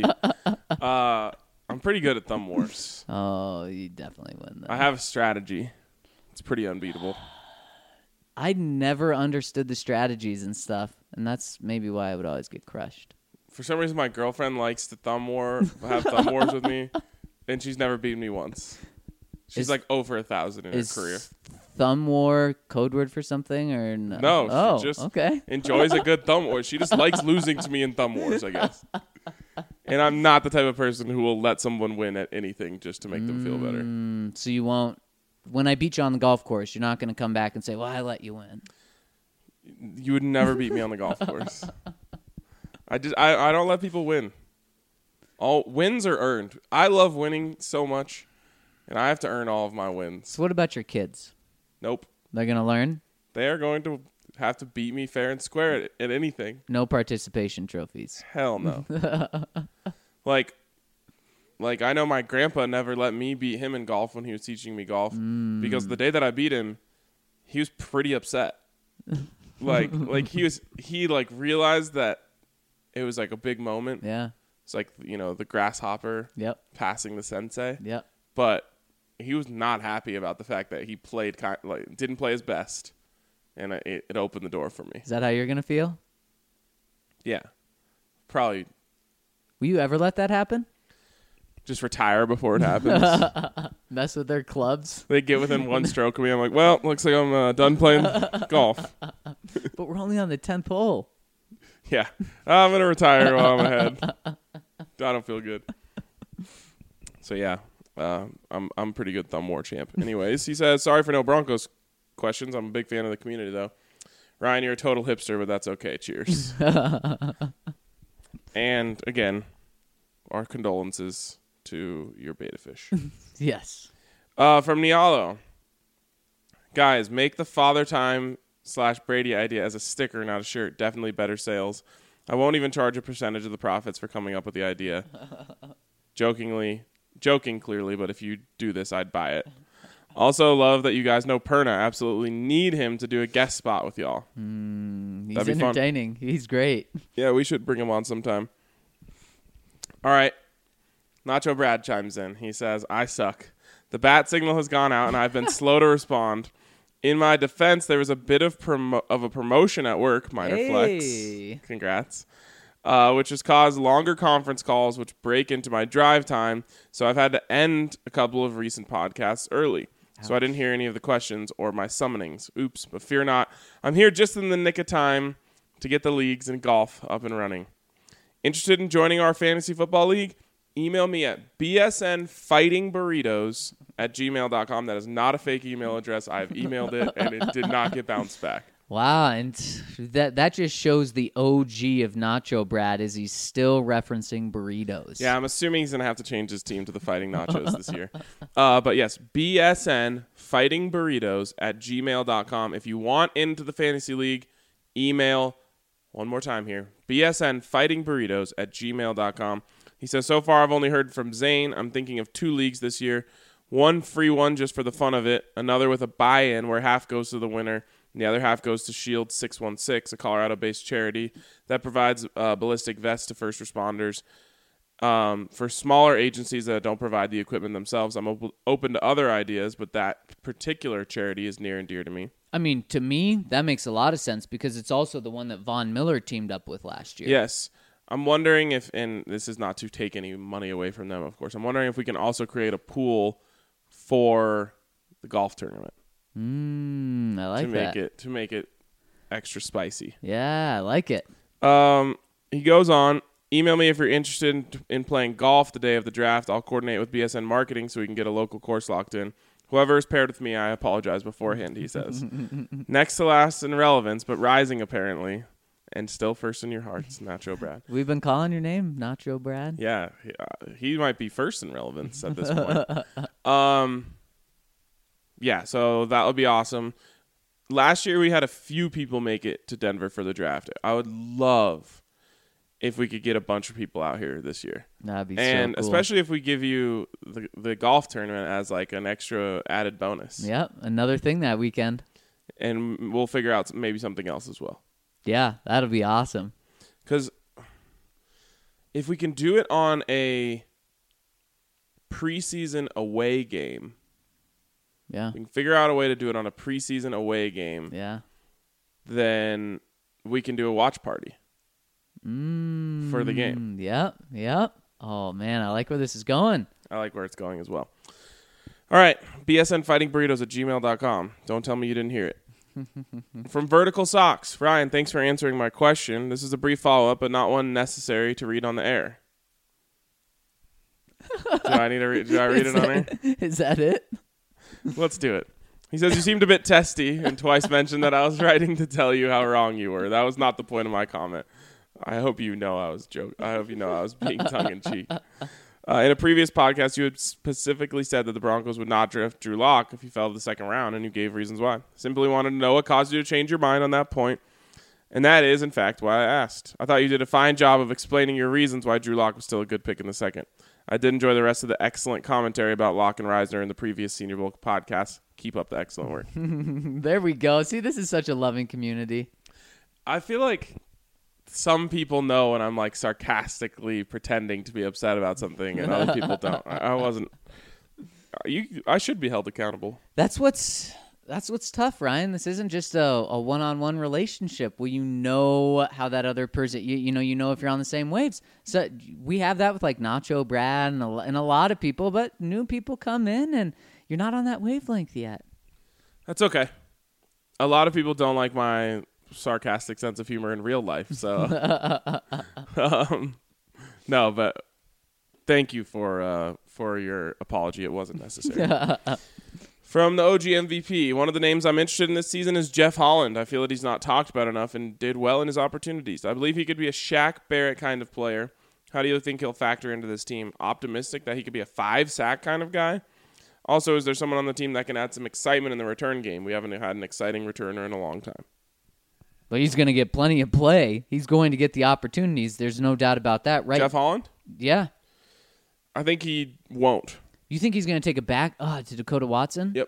I'm pretty good at thumb wars. Oh, you definitely win then. I have a strategy. It's pretty unbeatable. I never understood the strategies and stuff, and that's maybe why I would always get crushed. For some reason, my girlfriend likes to have thumb wars with me, and she's never beaten me once. She's like over 1,000 in her career. Thumb war code word for something or no? No, she just okay. enjoys a good thumb war. She just likes losing to me in thumb wars, I guess. And I'm not the type of person who will let someone win at anything just to make them feel better. So you won't. When I beat you on the golf course, you're not going to come back and say, "Well, I let you win." You would never beat me on the golf course. I don't let people win. All wins are earned. I love winning so much, and I have to earn all of my wins. So what about your kids? Nope. They're going to learn? They are going to have to beat me fair and square at anything. No participation trophies. Hell no. Like I know my grandpa never let me beat him in golf when he was teaching me golf because the day that I beat him, he was pretty upset. like he realized that it was like a big moment. Yeah. It's like, the grasshopper Yep. passing the sensei. Yep. But he was not happy about the fact that he played didn't play his best, and it opened the door for me. Is that how you're going to feel? Yeah. Probably Will you ever let that happen? just retire before it happens. Mess with their clubs? They get within one stroke of me. I'm like, well, looks like I'm done playing golf. But we're only on the 10th hole. Yeah. I'm going to retire while I'm ahead. I don't feel good. So, yeah. I'm pretty good thumb war champ. Anyways, he says, sorry for no Broncos questions. I'm a big fan of the community, though. Ryan, you're a total hipster, but that's okay. Cheers. And, again, our condolences to your beta fish. Yes. From Nialo. Guys, make the Father Time / Brady idea as a sticker, not a shirt. Definitely better sales. I won't even charge a percentage of the profits for coming up with the idea. Joking clearly, but if you do this, I'd buy it. Also love that you guys know Perna. Absolutely need him to do a guest spot with y'all. He's entertaining. Fun. He's great. Yeah, we should bring him on sometime. All right. Nacho Brad chimes in. He says, I suck. The bat signal has gone out, and I've been slow to respond. In my defense, there was a bit of a promotion at work, minor flex. Congrats. Which has caused longer conference calls, which break into my drive time. So I've had to end a couple of recent podcasts early. Ouch. So I didn't hear any of the questions or my summonings. Oops, but fear not. I'm here just in the nick of time to get the leagues and golf up and running. Interested in joining our fantasy football league? Email me at bsnfightingburritos@gmail.com. That is not a fake email address. I've emailed it, and it did not get bounced back. Wow, and that just shows the OG of Nacho Brad is he's still referencing burritos. Yeah, I'm assuming he's going to have to change his team to the Fighting Nachos this year. But yes, bsnfightingburritos@gmail.com. If you want into the fantasy league, email one more time here, bsnfightingburritos@gmail.com. He says, so far I've only heard from Zane. I'm thinking of 2 leagues this year. One free one just for the fun of it. Another with a buy-in where half goes to the winner. And the other half goes to Shield 616, a Colorado-based charity that provides ballistic vests to first responders. For smaller agencies that don't provide the equipment themselves, I'm open to other ideas, but that particular charity is near and dear to me. I mean, to me, that makes a lot of sense because it's also the one that Von Miller teamed up with last year. Yes. I'm wondering if, and this is not to take any money away from them, of course. I'm wondering if we can also create a pool for the golf tournament. I like that. To make it extra spicy. Yeah, I like it. He goes on, email me if you're interested in playing golf the day of the draft. I'll coordinate with BSN Marketing so we can get a local course locked in. Whoever is paired with me, I apologize beforehand, he says. Next to last in relevance, but rising apparently, and still first in your hearts, Nacho Brad. We've been calling your name, Nacho Brad. Yeah, he might be first in relevance at this point. Yeah, so that would be awesome. Last year we had a few people make it to Denver for the draft. I would love if we could get a bunch of people out here this year. That'd be and so cool. especially if we give you the golf tournament as like an extra added bonus. Yep, another thing that weekend. And we'll figure out maybe something else as well. Yeah, that'll be awesome. Because if we can do it on a preseason away game, Yeah. we can figure out a way to do it on a preseason away game, Yeah. then we can do a watch party for the game. Yep. Oh, man, I like where this is going. I like where it's going as well. All right, bsnfightingburritos@gmail.com. Don't tell me you didn't hear it. From Vertical Socks, Ryan, thanks for answering my question. This is a brief follow-up, but not one necessary to read on the air. Do I read it on air? Is that it? Let's do it. He says, you seemed a bit testy and twice mentioned that I was writing to tell you how wrong you were. That was not the point of my comment. I hope you know I was joking. I hope you know I was being tongue-in-cheek. In a previous podcast, you had specifically said that the Broncos would not draft Drew Lock if he fell to the second round, and you gave reasons why. Simply wanted to know what caused you to change your mind on that point, and that is, in fact, why I asked. I thought you did a fine job of explaining your reasons why Drew Lock was still a good pick in the second. I did enjoy the rest of the excellent commentary about Lock and Reisner in the previous Senior Bowl podcast. Keep up the excellent work. There we go. See, this is such a loving community. I feel like some people know when I'm like sarcastically pretending to be upset about something, and other people don't. I wasn't. I should be held accountable. That's what's tough, Ryan. This isn't just a one-on-one relationship where you know how that other person, you know if you're on the same waves. So we have that with like Nacho Brad and a lot of people, but new people come in and you're not on that wavelength yet. That's okay. A lot of people don't like my sarcastic sense of humor in real life, so no, but thank you for your apology. It wasn't necessary. From the OG MVP, one of the names I'm interested in this season is Jeff Holland. I feel that he's not talked about enough and did well in his opportunities. I believe he could be a Shaq Barrett kind of player. How do you think he'll factor into this team? Optimistic that he could be a 5-sack kind of guy? Also, is there someone on the team that can add some excitement in the return game? We haven't had an exciting returner in a long time. But he's going to get plenty of play. He's going to get the opportunities. There's no doubt about that, right? Jeff Holland? Yeah. I think he won't. You think he's going to take it back to Dakota Watson? Yep.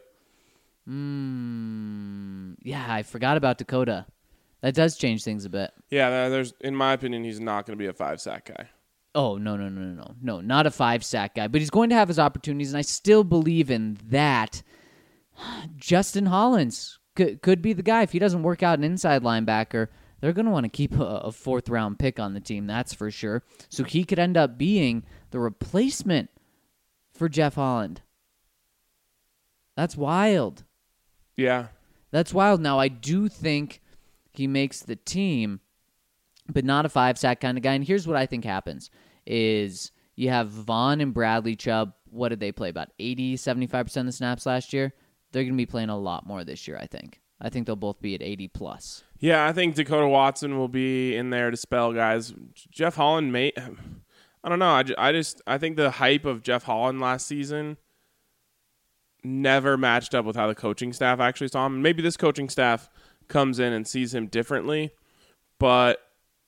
Yeah, I forgot about Dakota. That does change things a bit. Yeah, in my opinion, he's not going to be a 5-sack guy. Oh, no, not a 5-sack guy. But he's going to have his opportunities, and I still believe in that. Justin Hollins could be the guy. If he doesn't work out an inside linebacker, they're going to want to keep a 4th-round pick on the team, that's for sure. So he could end up being the replacement for Jeff Holland. That's wild. Yeah. That's wild. Now, I do think he makes the team, but not a 5-sack kind of guy. And here's what I think happens is you have Vaughn and Bradley Chubb. What did they play? About 80, 75% of the snaps last year? They're going to be playing a lot more this year, I think. I think they'll both be at 80+. Yeah, I think Dakota Watson will be in there to spell guys. Jeff Holland may... I don't know. I think the hype of Jeff Holland last season never matched up with how the coaching staff actually saw him. Maybe this coaching staff comes in and sees him differently, but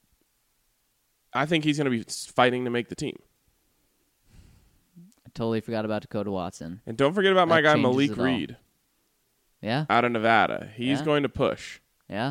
I think he's going to be fighting to make the team. I totally forgot about Dakota Watson. And don't forget about my guy Malik changes it all. Reed. Yeah? Out of Nevada. He's going to push. Yeah?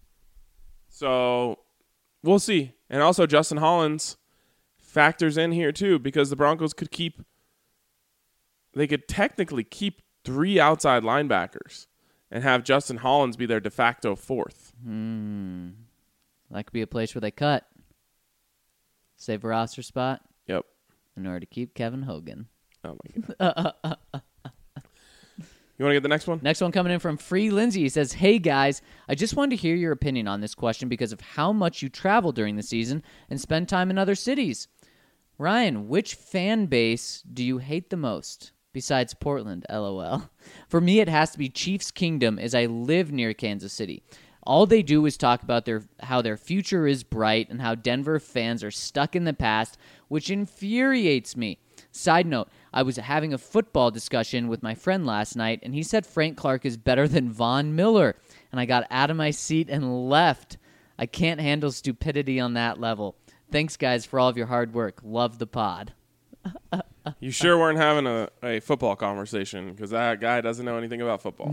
So we'll see. And also Justin Hollins factors in here too, because the Broncos could technically keep 3 outside linebackers and have Justin Hollins be their de facto fourth. That could be a place where they cut. Save a roster spot Yep. in order to keep Kevin Hogan. Oh, my God. You want to get the next one? Next one coming in from Free Lindsay. He says, "Hey guys, I just wanted to hear your opinion on this question because of how much you travel during the season and spend time in other cities. Ryan, which fan base do you hate the most besides Portland? LOL. For me, it has to be Chiefs Kingdom, as I live near Kansas City. All they do is talk about how their future is bright and how Denver fans are stuck in the past, which infuriates me. Side note, I was having a football discussion with my friend last night, and he said Frank Clark is better than Von Miller, and I got out of my seat and left. I can't handle stupidity on that level. Thanks, guys, for all of your hard work. Love the pod." You sure weren't having a football conversation, because that guy doesn't know anything about football.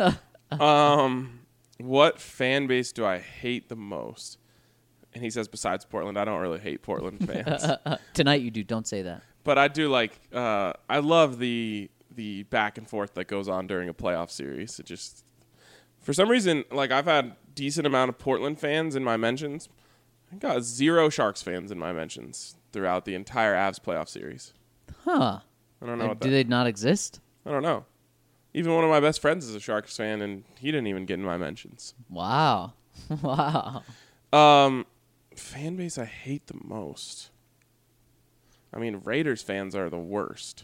What fan base do I hate the most? And he says, besides Portland, I don't really hate Portland fans. Tonight you do. Don't say that. But I do like, I love the back and forth that goes on during a playoff series. It just, for some reason, like I've had decent amount of Portland fans in my mentions. I got 0 Sharks fans in my mentions throughout the entire Avs playoff series. Huh. I don't know what Do they not exist? I don't know. Even one of my best friends is a Sharks fan, and he didn't even get in my mentions. Wow. Wow. Fan base I hate the most. I mean, Raiders fans are the worst.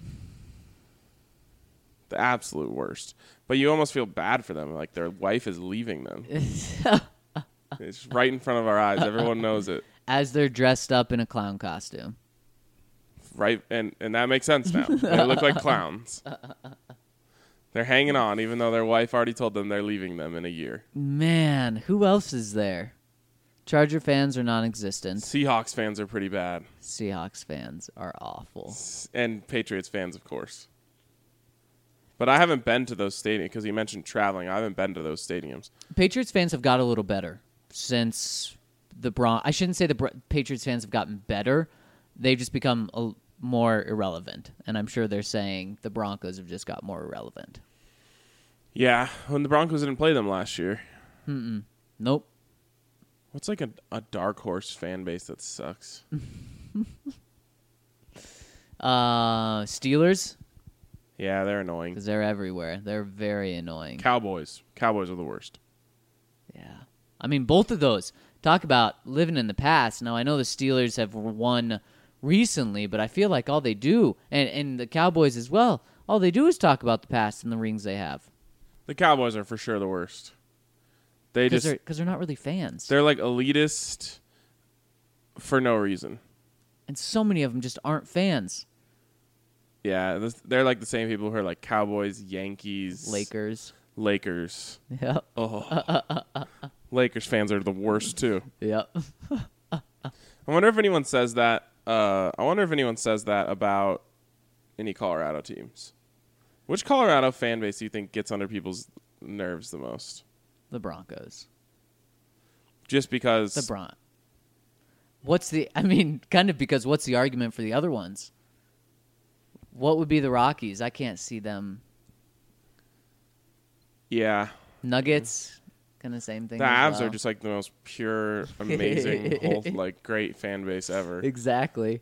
The absolute worst. But you almost feel bad for them. Like their wife is leaving them. It's right in front of our eyes. Everyone knows it. As they're dressed up in a clown costume. Right, and that makes sense now. They look like clowns. They're hanging on, even though their wife already told them they're leaving them in a year. Man, who else is there? Charger fans are non-existent. Seahawks fans are pretty bad. Seahawks fans are awful. And Patriots fans, of course. But I haven't been to those stadiums, because you mentioned traveling. I haven't been to those stadiums. Patriots fans have got a little better since the I shouldn't say the Patriots fans have gotten better. They've just become more irrelevant. And I'm sure they're saying the Broncos have just got more irrelevant. Yeah, when the Broncos didn't play them last year. Nope. What's like a dark horse fan base that sucks? Steelers? Yeah, they're annoying. Because they're everywhere. They're very annoying. Cowboys. Cowboys are the worst. Yeah. I mean, both of those. Talk about living in the past. Now, I know the Steelers have won recently, but I feel like all they do, and the Cowboys as well, all they do is talk about the past and the rings they have. The Cowboys are for sure the worst. Because they're not really fans. They're like elitist for no reason. And so many of them just aren't fans. Yeah, they're like the same people who are like Cowboys, Yankees, Lakers. Yep. Oh. Lakers fans are the worst too. Yep. I wonder if anyone says that. About any Colorado teams. Which Colorado fan base do you think gets under people's nerves the most? The Broncos. Just because. Kind of because what's the argument for the other ones? What would be the Rockies? I can't see them. Yeah. Nuggets, kind of same thing. The as Avs well. are just like the most pure, amazing, whole, like great fan base ever. Exactly.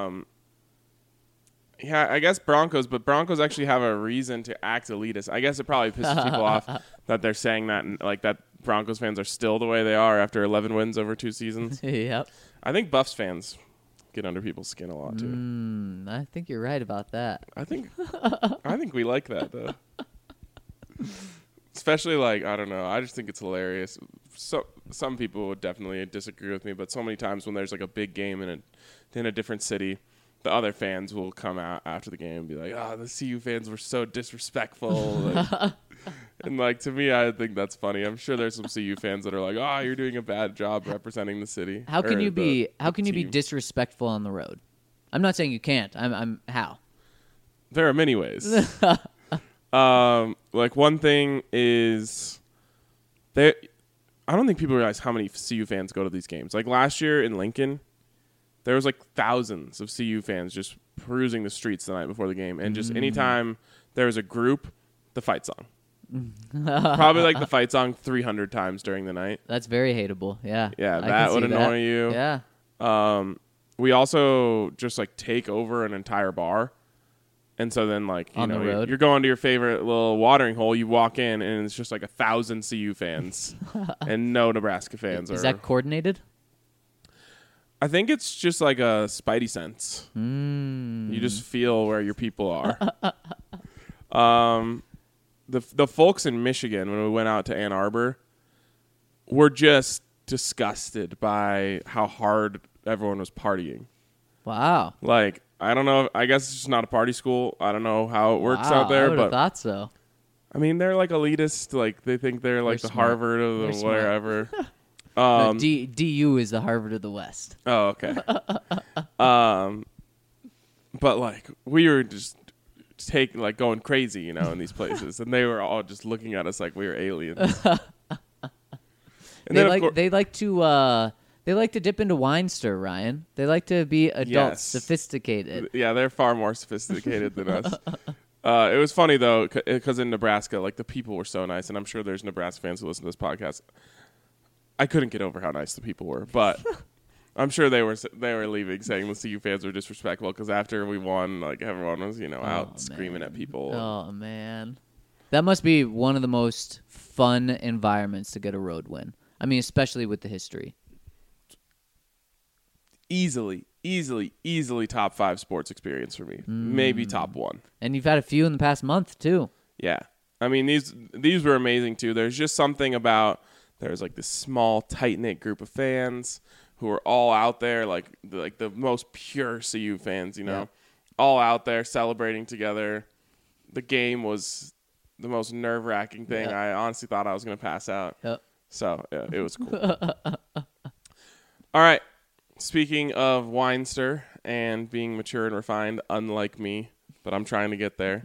Yeah, I guess Broncos, but Broncos actually have a reason to act elitist. I guess it probably pisses people off that they're saying that, like that Broncos fans are still the way they are after 11 wins over 2 seasons. Yep. I think Buffs fans get under people's skin a lot too. I think you're right about that. I think we like that though. Especially like, I don't know, I just think it's hilarious. So some people would definitely disagree with me, but so many times when there's like a big game in a different city, the other fans will come out after the game and be like, the CU fans were so disrespectful. And like, to me, I think that's funny. I'm sure there's some CU fans that are like, you're doing a bad job representing the city. How can you be disrespectful on the road? I'm not saying you can't. I'm how? There are many ways. Like one thing is I don't think people realize how many CU fans go to these games. Like last year in Lincoln, there was like thousands of CU fans just perusing the streets the night before the game. And just anytime there was a group, the fight song. Probably like the fight song 300 times during the night. That's very hateable. Yeah. Yeah, I can that would see annoy you. Yeah. We also just like take over an entire bar. And so then, like, you On the know, road? you're going to your favorite little watering hole. You walk in, and it's just like 1,000 CU fans and no Nebraska fans. Is that coordinated? I think it's just like a spidey sense. You just feel where your people are. The folks in Michigan, when we went out to Ann Arbor, were just disgusted by how hard everyone was partying. Wow. Like, I don't know. I guess it's just not a party school. I don't know how it works Wow, out there, I would have but thought so. I mean, they're like elitist. Like, they think they're like They're the smart. Harvard of They're the smart. wherever. No, DU is the Harvard of the West. Oh, okay. But like we were just going crazy, you know, in these places, and they were all just looking at us like we were aliens. And then, of course, They like to dip into wine stir, Ryan. They like to be adults, Yes. sophisticated. yeah, they're far more sophisticated than us. It was funny though, because in Nebraska, like the people were so nice, and I'm sure there's Nebraska fans who listen to this podcast. I couldn't get over how nice the people were, but I'm sure they were leaving saying the CU fans were disrespectful because after we won, like everyone was out screaming at people. Oh man, that must be one of the most fun environments to get a road win. I mean, especially with the history. Easily top 5 sports experience for me. Maybe top 1. And you've had a few in the past month too. Yeah. I mean, these were amazing too. There's just something about there's like this small, tight-knit group of fans who are all out there, like the most pure CU fans, you know, Yeah. all out there celebrating together. The game was the most nerve-wracking thing. Yeah. I honestly thought I was going to pass out. Yep. So, yeah, it was cool. All right. Speaking of Weinster and being mature and refined, unlike me, but I'm trying to get there,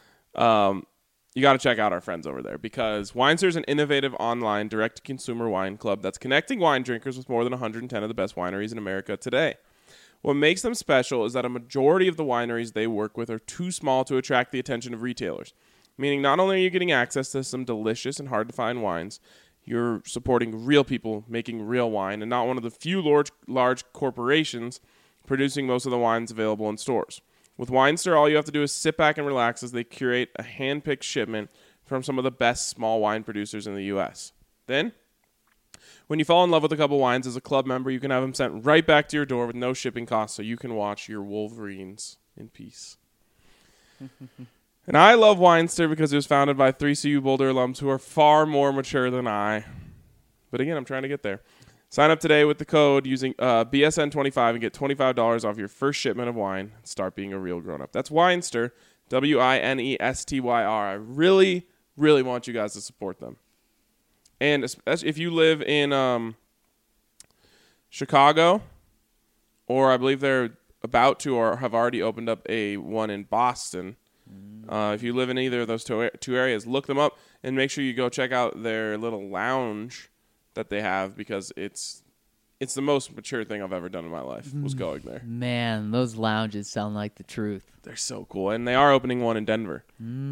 you got to check out our friends over there because Weinster is an innovative online direct-to-consumer wine club that's connecting wine drinkers with more than 110 of the best wineries in America today. What makes them special is that a majority of the wineries they work with are too small to attract the attention of retailers, meaning not only are you getting access to some delicious and hard-to-find wines, you're supporting real people making real wine and not one of the few large corporations producing most of the wines available in stores. With Weinster, all you have to do is sit back and relax as they curate a hand-picked shipment from some of the best small wine producers in the U.S. Then, when you fall in love with a couple wines as a club member, you can have them sent right back to your door with no shipping costs so you can watch your Wolverines in peace. And I love Weinster because it was founded by 3 CU Boulder alums who are far more mature than I. But again, I'm trying to get there. Sign up today with the code using BSN25 and get $25 off your first shipment of wine and start being a real grown-up. That's Weinster, Winestyr. I really, really want you guys to support them. And especially if you live in Chicago, or I believe they're about to or have already opened up a one in Boston. If you live in either of those two areas, look them up and make sure you go check out their little lounge that they have because it's the most mature thing I've ever done in my life was going there. Man, those lounges sound like the truth. They're so cool, and they are opening one in Denver.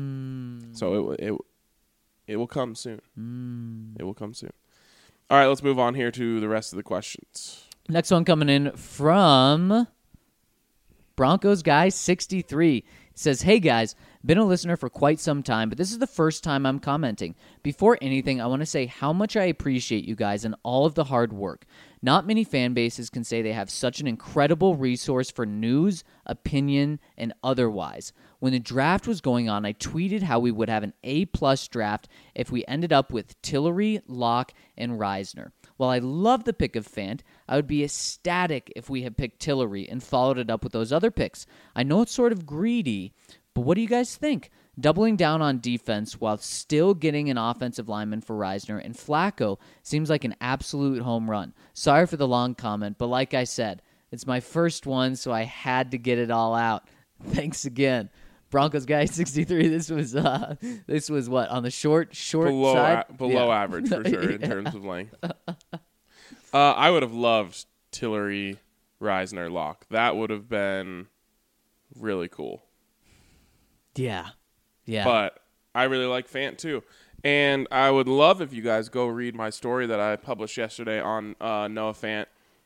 So it will come soon. It will come soon. All right, let's move on here to the rest of the questions. Next one coming in from Broncos Guy 63. Says, hey guys, been a listener for quite some time, but this is the first time I'm commenting. Before anything, I want to say how much I appreciate you guys and all of the hard work. Not many fan bases can say they have such an incredible resource for news, opinion, and otherwise. When the draft was going on, I tweeted how we would have an A-plus draft if we ended up with Tillery, Locke, and Reisner. While I love the pick of Fant, I would be ecstatic if we had picked Tillery and followed it up with those other picks. I know it's sort of greedy, but what do you guys think? Doubling down on defense while still getting an offensive lineman for Reisner and Flacco seems like an absolute home run. Sorry for the long comment, but like I said, it's my first one, so I had to get it all out. Thanks again. Broncos Guy 63. This was what, on the short side? Below average for sure in terms of length. I would have loved Tillery, Reisner, Locke. That would have been really cool. Yeah. But I really like Fant too. And I would love if you guys go read my story that I published yesterday on Noah Fant.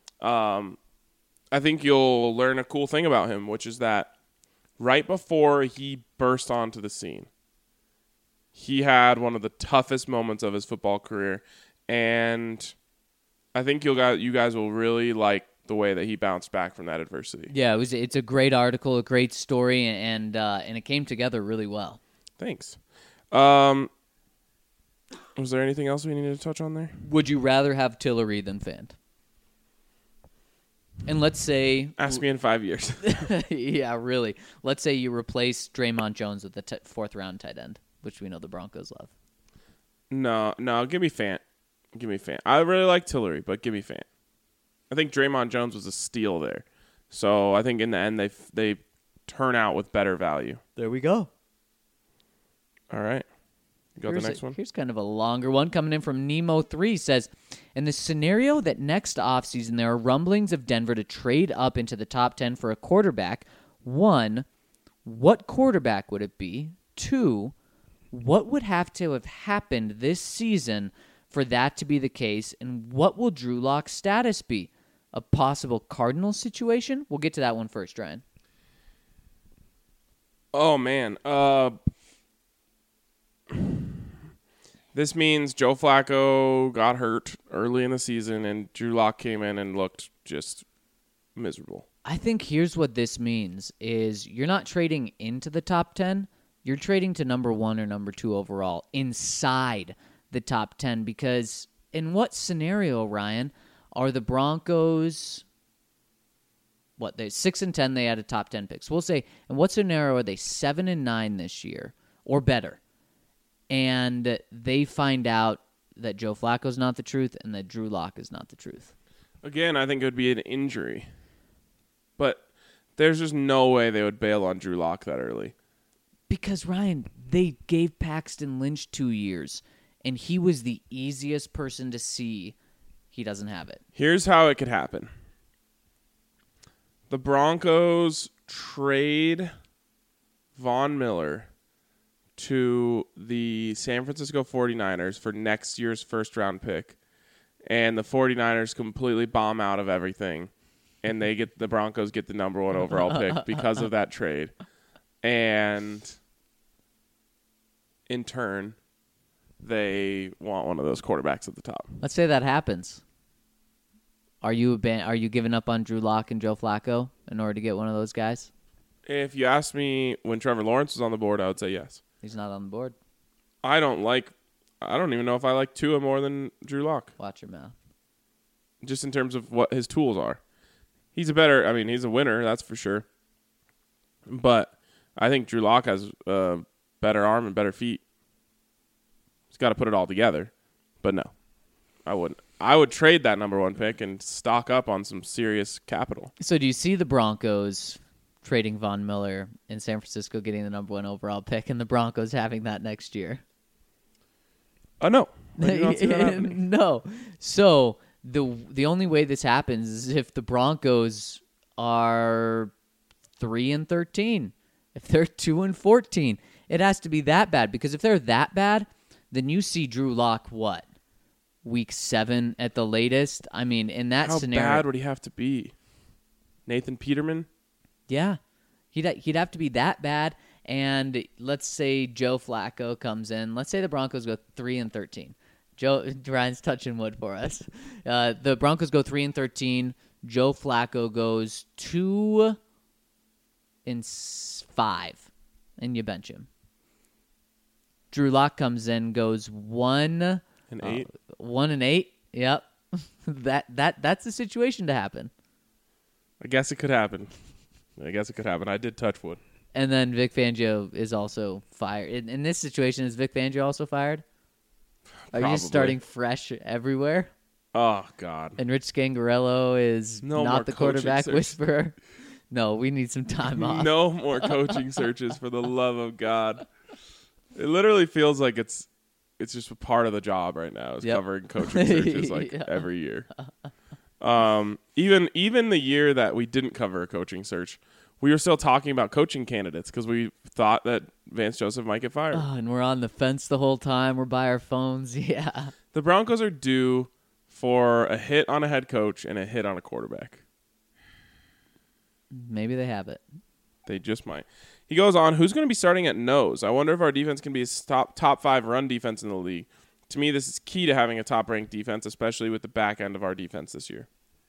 I think you'll learn a cool thing about him, which is that right before he burst onto the scene, he had one of the toughest moments of his football career. And I think you guys will really like the way that he bounced back from that adversity. Yeah, it's a great article, a great story, and it came together really well. Thanks. Was there anything else we needed to touch on there? Would you rather have Tillery than Fant? And let's say... Ask me in 5 years. Yeah, really. Let's say you replace Draymond Jones with the fourth-round tight end, which we know the Broncos love. No, give me Fant. Give me Fant. I really like Tillery, but give me Fant. I think Draymond Jones was a steal there. So I think in the end they turn out with better value. There we go. All right. Go to the next one. Here's kind of a longer one coming in from Nemo3 says, in the scenario that next offseason there are rumblings of Denver to trade up into the top 10 for a quarterback, 1, what quarterback would it be? 2, what would have to have happened this season for that to be the case? And what will Drew Lock's status be? A possible Cardinals situation? We'll get to that one first, Ryan. Oh, man. This means Joe Flacco got hurt early in the season, and Drew Lock came in and looked just miserable. I think here's what this means is you're not trading into the top 10. You're trading to number 1 or number 2 overall inside the top 10, because in what scenario, Ryan, are the Broncos, they're 6-10, they had a top 10 picks. We'll say, in what scenario are they 7-9 this year or better? And they find out that Joe Flacco's not the truth and that Drew Lock is not the truth. Again, I think it would be an injury. But there's just no way they would bail on Drew Lock that early. Because, Ryan, they gave Paxton Lynch 2 years, and he was the easiest person to see he doesn't have it. Here's how it could happen. The Broncos trade Von Miller to the San Francisco 49ers for next year's first-round pick, and the 49ers completely bomb out of everything, and the Broncos get the number 1 overall pick because of that trade. And in turn, they want one of those quarterbacks at the top. Let's say that happens. Are you giving up on Drew Lock and Joe Flacco in order to get one of those guys? If you asked me when Trevor Lawrence was on the board, I would say yes. He's not on the board. I don't even know if I like Tua more than Drew Lock. Watch your mouth. Just in terms of what his tools are. He's a winner, that's for sure. But I think Drew Lock has a better arm and better feet. He's got to put it all together. But no, I wouldn't. I would trade that number 1 pick and stock up on some serious capital. So do you see the Broncos trading Von Miller in San Francisco, getting the number 1 overall pick, and the Broncos having that next year? No. I do not see that happening. No. So the only way this happens is if the Broncos are 3-13. If they're 2-14, it has to be that bad. Because if they're that bad, then you see Drew Lock week 7 at the latest. I mean, in that scenario, how bad would he have to be? Nathan Peterman? Yeah, he'd have to be that bad. And let's say Joe Flacco comes in. Let's say the Broncos go 3-13. Ryan's touching wood for us. The Broncos go 3-13. Joe Flacco goes 2-5, and you bench him. Drew Lock comes in, goes 1-8. 1-8. Yep, that's the situation to happen. I guess it could happen. I did touch wood. And then Vic Fangio is also fired. In this situation, is Vic Fangio also fired? Are you just starting fresh everywhere? Oh, God. And Rich Scangarello is not the quarterback whisperer? No, we need some time off. No more coaching searches, for the love of God. It literally feels like it's just a part of the job right now, is covering coaching searches every year. Even the year that we didn't cover a coaching search, we were still talking about coaching candidates because we thought that Vance Joseph might get fired. Oh, and we're on the fence the whole time. We're by our phones. Yeah. The Broncos are due for a hit on a head coach and a hit on a quarterback. Maybe they have it. They just might. He goes on, who's going to be starting at nose? I wonder if our defense can be a top 5 run defense in the league. To me, this is key to having a top-ranked defense, especially with the back end of our defense this year.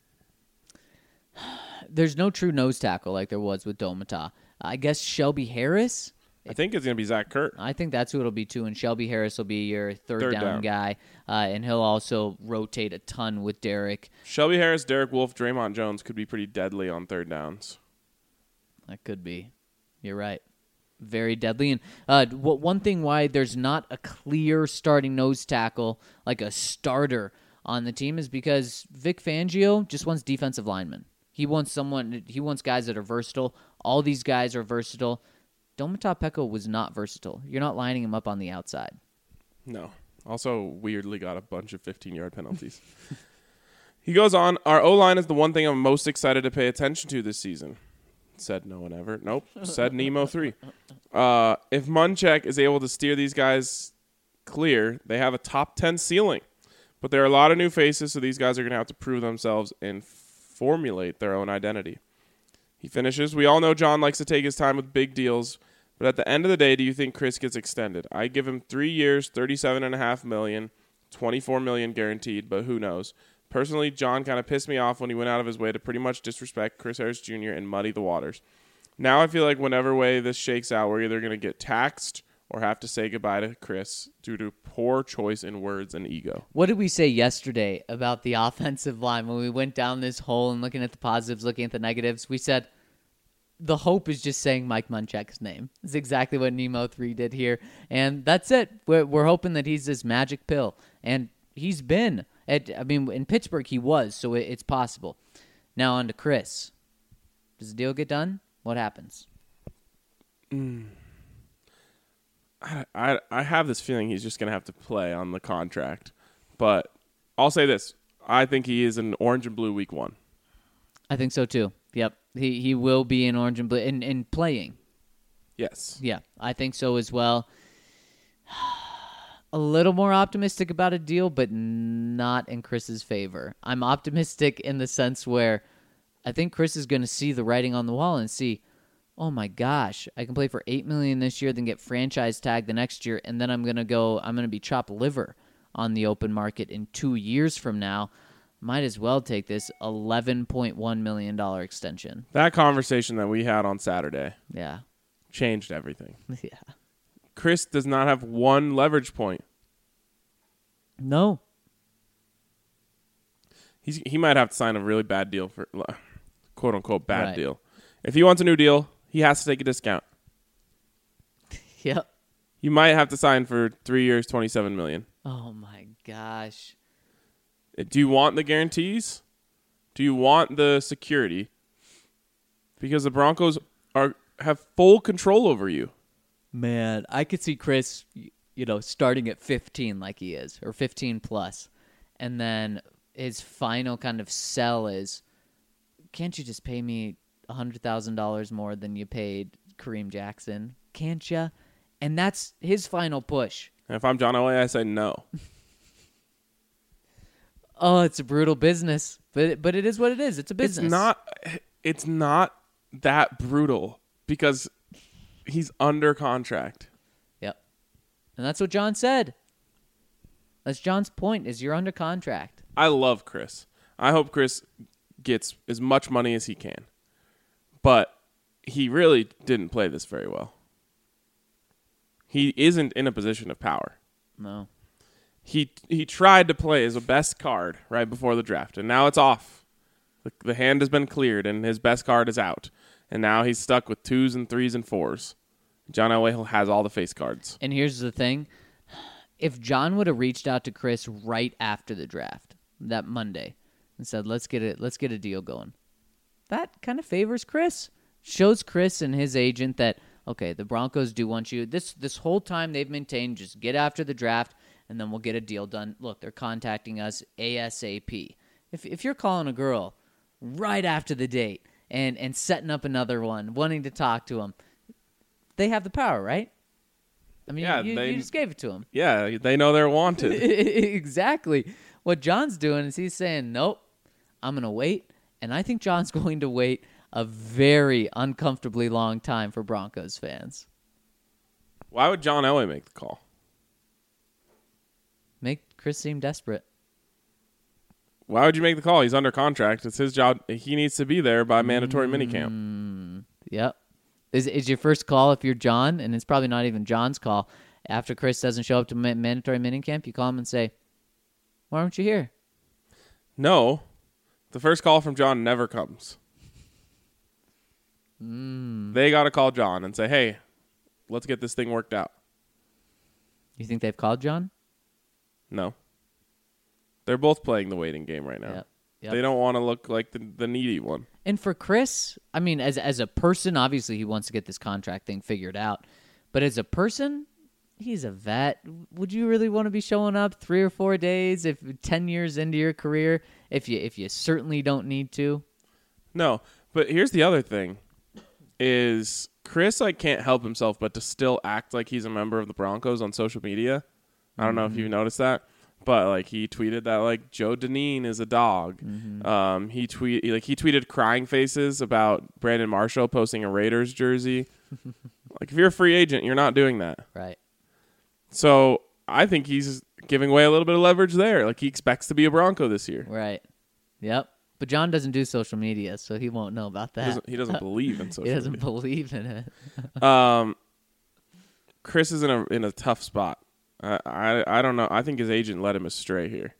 There's no true nose tackle like there was with Domata. I guess Shelby Harris. I think it's going to be Zach Kurt. I think that's who it'll be too, and Shelby Harris will be your third down guy, and he'll also rotate a ton with Derek. Shelby Harris, Derek Wolfe, Draymond Jones could be pretty deadly on third downs. That could be. You're right. Very deadly. And one thing why there's not a clear starting nose tackle, like a starter on the team, is because Vic Fangio just wants defensive linemen. He wants guys that are versatile. All these guys are versatile. Domata Peko was not versatile. You're not lining him up on the outside. No. Also, weirdly got a bunch of 15-yard penalties. He goes on, our O-line is the one thing I'm most excited to pay attention to this season. Said no one ever. Nope. Said Nemo 3. If Munchak is able to steer these guys clear, they have a top 10 ceiling. But there are a lot of new faces, so these guys are going to have to prove themselves and formulate their own identity. He finishes, we all know John likes to take his time with big deals, but at the end of the day, do you think Chris gets extended? I give him 3 years, $37.5 million, $24 million guaranteed, but who knows? Personally, John kind of pissed me off when he went out of his way to pretty much disrespect Chris Harris Jr. and muddy the waters. Now I feel like whenever way this shakes out, we're either going to get taxed or have to say goodbye to Chris due to poor choice in words and ego. What did we say yesterday about the offensive line when we went down this hole and looking at the positives, looking at the negatives? We said the hope is just saying Mike Munchak's name. It's exactly what Nemo 3 did here, and that's it. We're hoping that he's this magic pill, and he's been. In Pittsburgh he was, so it's possible. Now on to Chris. Does the deal get done? What happens? I have this feeling he's just going to have to play on the contract. But I'll say this. I think he is in orange and blue week 1. I think so too. Yep. He will be in orange and blue in playing. Yes. Yeah, I think so as well. A little more optimistic about a deal, but not in Chris's favor. I'm optimistic in the sense where I think Chris is going to see the writing on the wall and see, oh my gosh, I can play for $8 million this year, then get franchise tagged the next year, and then I'm going to be chopped liver on the open market in 2 years from now. Might as well take this $11.1 million extension. That conversation that we had on Saturday changed everything. Yeah. Chris does not have one leverage point. No. He might have to sign a really bad deal for quote-unquote bad deal. If he wants a new deal, he has to take a discount. Yep. You might have to sign for 3 years, $27 million. Oh, my gosh. Do you want the guarantees? Do you want the security? Because the Broncos have full control over you. Man, I could see Chris, starting at 15 like he is, or 15 plus. And then his final kind of sell is, can't you just pay me $100,000 more than you paid Kareem Jackson? Can't you? And that's his final push. And if I'm John Elway, I say no. Oh, it's a brutal business, but it is what it is. It's a business. It's not that brutal because he's under contract. Yep. And that's what John said. That's John's point, is you're under contract. I love Chris. I hope Chris gets as much money as he can. But he really didn't play this very well. He isn't in a position of power. No. He tried to play as a best card right before the draft, and now it's off. The hand has been cleared, and his best card is out. And now he's stuck with 2s and 3s and 4s. John Elway has all the face cards. And here's the thing. If John would have reached out to Chris right after the draft, that Monday, and said, let's get a deal going, that kind of favors Chris. Shows Chris and his agent that, okay, the Broncos do want you. This whole time they've maintained, just get after the draft, and then we'll get a deal done. Look, they're contacting us ASAP. If you're calling a girl right after the date and setting up another one, wanting to talk to them, they have the power, right? I mean, Yeah, you just gave it to them. Yeah, they know they're wanted. Exactly. What John's doing is he's saying, nope, I'm going to wait. And I think John's going to wait a very uncomfortably long time for Broncos fans. Why would John Elway make the call? Make Chris seem desperate. Why would you make the call? He's under contract. It's his job. He needs to be there by mandatory minicamp. Yep. Is your first call if you're John, and it's probably not even John's call, after Chris doesn't show up to mandatory minicamp, you call him and say, why aren't you here? No. The first call from John never comes. They got to call John and say, hey, let's get this thing worked out. You think they've called John? No. They're both playing the waiting game right now. Yep. They don't want to look like the needy one. And for Chris, I mean, as a person, obviously he wants to get this contract thing figured out. But as a person, he's a vet. Would you really want to be showing up 3 or 4 days if 10 years into your career if you certainly don't need to? No, but here's the other thing is Chris can't help himself but to still act like he's a member of the Broncos on social media. I don't know if you've noticed that. But he tweeted that Joe Dineen is a dog. He tweeted crying faces about Brandon Marshall posting a Raiders jersey. If you're a free agent, you're not doing that. Right. So I think he's giving away a little bit of leverage there. He expects to be a Bronco this year. Right. Yep. But John doesn't do social media, so he won't know about that. He doesn't believe in social media. He doesn't believe in it. Chris is in a tough spot. I don't know. I think his agent led him astray here.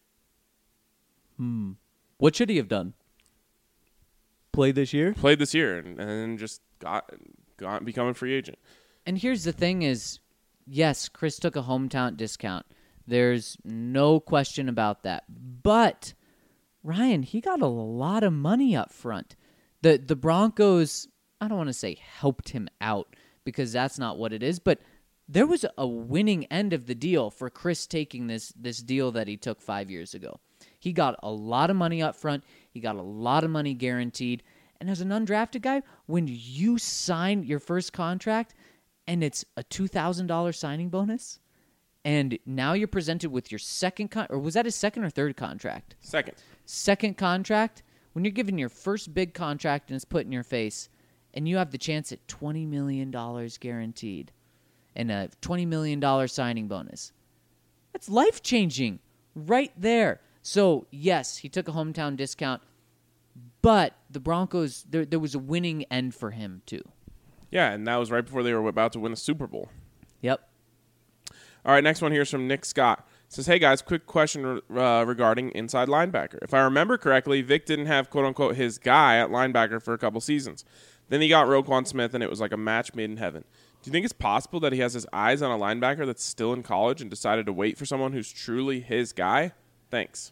What should he have done? Played this year? Played this year and then just got become a free agent. And here's the thing is, yes, Chris took a hometown discount. There's no question about that. But, Ryan, he got a lot of money up front. The Broncos, I don't want to say helped him out because that's not what it is, but there was a winning end of the deal for Chris taking this deal that he took 5 years ago. He got a lot of money up front. He got a lot of money guaranteed. And as an undrafted guy, when you sign your first contract and it's a $2,000 signing bonus, and now you're presented with your second or was that his second or third contract? Second contract. When you're given your first big contract and it's put in your face, and you have the chance at $20 million guaranteed and a $20 million signing bonus. That's life-changing right there. So, yes, he took a hometown discount, but the Broncos, there was a winning end for him, too. Yeah, and that was right before they were about to win a Super Bowl. Yep. All right, next one here is from Nick Scott. It says, hey, guys, quick question regarding inside linebacker. If I remember correctly, Vic didn't have, quote-unquote, his guy at linebacker for a couple seasons. Then he got Roquan Smith, and it was like a match made in heaven. Do you think it's possible that he has his eyes on a linebacker that's still in college and decided to wait for someone who's truly his guy? Thanks.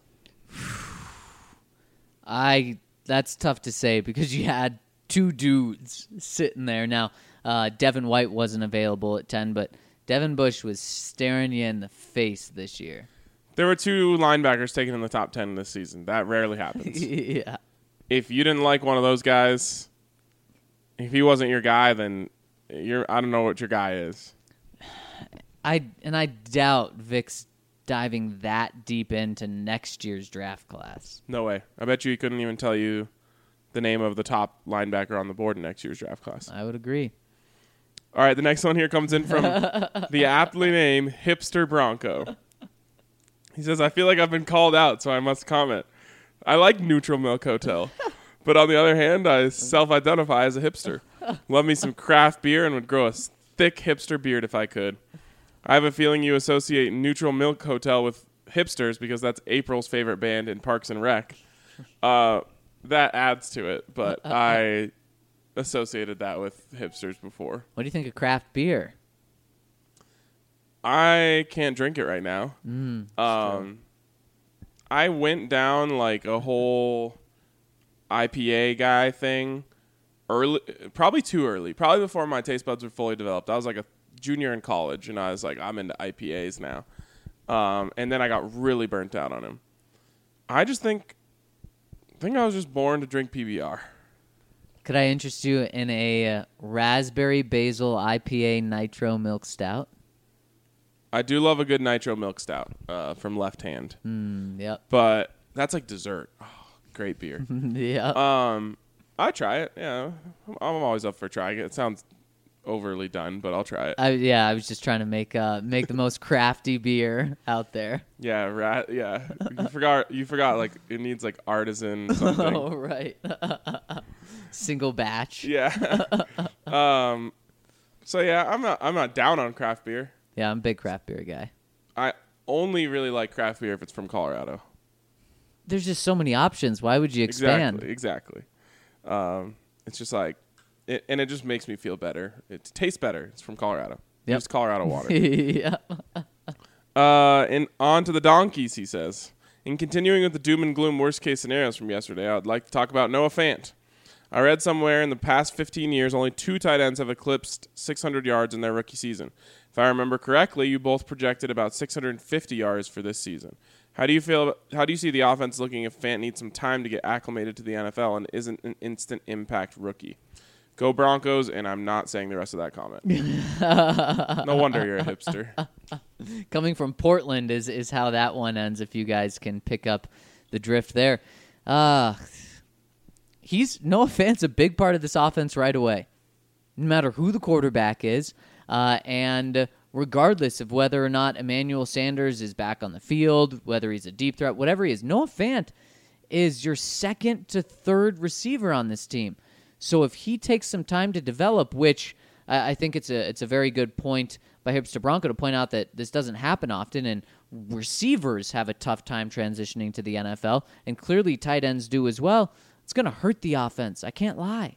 That's tough to say because you had two dudes sitting there. Now, Devin White wasn't available at 10, but Devin Bush was staring you in the face this year. There were 2 linebackers taken in the top 10 this season. That rarely happens. Yeah. If you didn't like one of those guys, if he wasn't your guy, then I don't know what your guy is. I doubt Vic's diving that deep into next year's draft class. No way. I bet you he couldn't even tell you the name of the top linebacker on the board in next year's draft class. I would agree. All right, the next one here comes in from the aptly named Hipster Bronco. He says, I feel like I've been called out, so I must comment. I like Neutral Milk Hotel, but on the other hand, I self-identify as a hipster. Love me some craft beer and would grow a thick hipster beard if I could. I have a feeling you associate Neutral Milk Hotel with hipsters because that's April's favorite band in Parks and Rec. That adds to it, but I associated that with hipsters before. What do you think of craft beer? I can't drink it right now. I went down a whole IPA guy thing early, probably too early, probably before my taste buds were fully developed. I was like a junior in college, and I was like, I'm into IPAs now. And then I got really burnt out on him. I just think I was just born to drink PBR. Could I interest you in a raspberry basil IPA nitro milk stout? I do love a good nitro milk stout from Left Hand. Yep. But that's like dessert. Oh, great beer. Yep. I try it. Yeah, I'm always up for trying it. It sounds overly done, but I'll try it. I was just trying to make the most crafty beer out there. Yeah, yeah. You forgot. Like it needs like artisan something. Oh, right. Single batch. Yeah. So yeah, I'm not down on craft beer. Yeah, I'm a big craft beer guy. I only really like craft beer if it's from Colorado. There's just so many options. Why would you expand? Exactly. It's just like, and it just makes me feel better. It tastes better. It's from Colorado. Yep. It's Colorado water. Yeah. And on to the donkeys, he says. In continuing with the doom and gloom worst case scenarios from yesterday, I would like to talk about Noah Fant. I read somewhere in the past 15 years, only 2 tight ends have eclipsed 600 yards in their rookie season. If I remember correctly, you both projected about 650 yards for this season. How do you see the offense looking if Fant needs some time to get acclimated to the NFL and isn't an instant impact rookie? Go Broncos, and I'm not saying the rest of that comment. No wonder you're a hipster. Coming from Portland is how that one ends, if you guys can pick up the drift there. Noah Fant's a big part of this offense right away, no matter who the quarterback is, and regardless of whether or not Emmanuel Sanders is back on the field, whether he's a deep threat, whatever he is, Noah Fant is your second to third receiver on this team. So if he takes some time to develop, which I think it's a very good point by Hipster Bronco to point out that this doesn't happen often, and receivers have a tough time transitioning to the NFL, and clearly tight ends do as well. It's going to hurt the offense. I can't lie.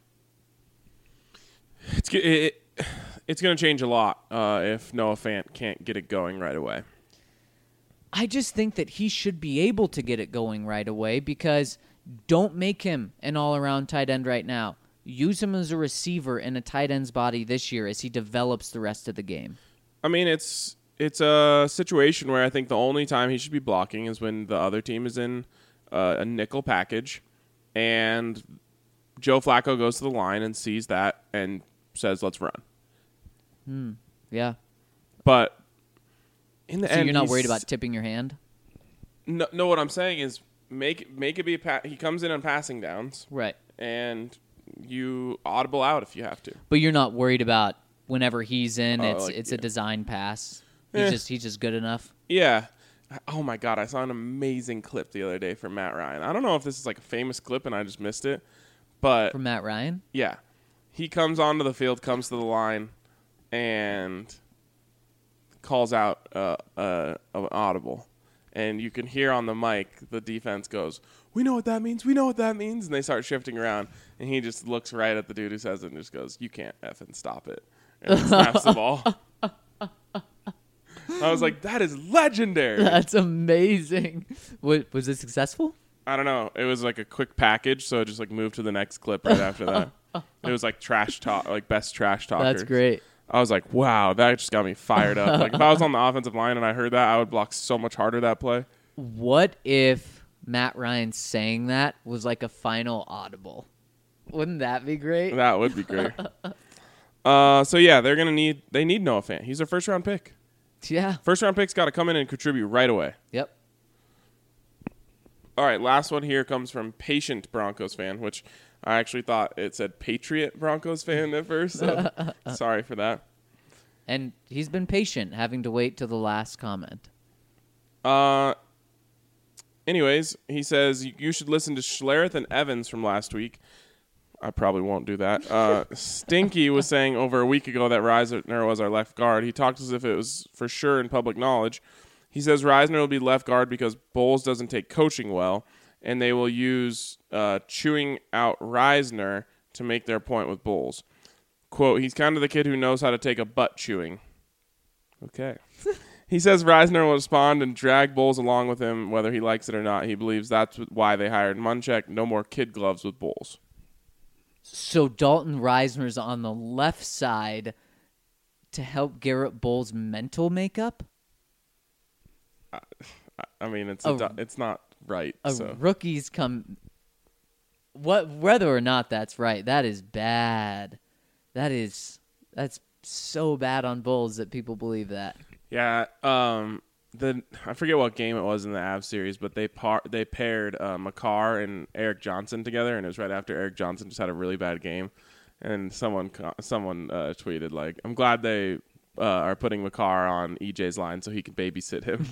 It's going to change a lot if Noah Fant can't get it going right away. I just think that he should be able to get it going right away, because don't make him an all-around tight end right now. Use him as a receiver in a tight end's body this year as he develops the rest of the game. I mean, it's a situation where I think the only time he should be blocking is when the other team is in a nickel package, and Joe Flacco goes to the line and sees that and says, "Let's run." Yeah. But in the So end, you're not worried about tipping your hand? No. What I'm saying is make it be he comes in on passing downs, Right. and you audible out if you have to. But you're not worried about whenever he's in, it's yeah. a design pass. Eh. He's just good enough. Yeah. Oh my God, I saw an amazing clip the other day from Matt Ryan. I don't know if this is like a famous clip and I just missed it, but From Matt Ryan? yeah, he comes onto the field, comes to the line, and calls out an audible. And you can hear on the mic the defense goes, "We know what that means. We know what that means." And they start shifting around. And he just looks right at the dude who says it and just goes, "You can't effing stop it." And snaps the ball. I was like, that is legendary. That's amazing. Was it successful? I don't know. It was like a quick package, so it just like moved to the next clip right after that. It was like trash talk, like best trash talker. That's great. I was like, wow, that just got me fired up. Like if I was on the offensive line and I heard that, I would block so much harder that play. What if Matt Ryan saying that was like a final audible? Wouldn't that be great? That would be great. So yeah, they need Noah Fant. He's their first round pick. Yeah. First round pick's got to come in and contribute right away. Yep. All right, last one here comes from Patient Broncos fan, which I actually thought it said Patriot Broncos fan at first. So sorry for that. And he's been patient, having to wait till the last comment. Anyways, he says you should listen to Schlereth and Evans from last week. I probably won't do that. Stinky was saying over a week ago that Reisner was our left guard. He talked as if it was for sure in public knowledge. He says Reisner will be left guard because Bowles doesn't take coaching well, and they will use chewing out Reisner to make their point with Bowles. Quote, he's kind of the kid who knows how to take a butt chewing. Okay. He says Reisner will respond and drag Bowles along with him whether he likes it or not. He believes that's why they hired Munchak. No more kid gloves with Bowles. So Dalton Reisner's on the left side to help Garrett Bowles' mental makeup? I mean, it's not right. Rookies come... whether or not that's right, that is bad. That's so bad on Bulls that people believe that. Yeah. I forget what game it was in the Avs series, but they paired Makar and Eric Johnson together, and it was right after Eric Johnson just had a really bad game, and someone tweeted like, "I'm glad they are putting Makar on EJ's line so he can babysit him."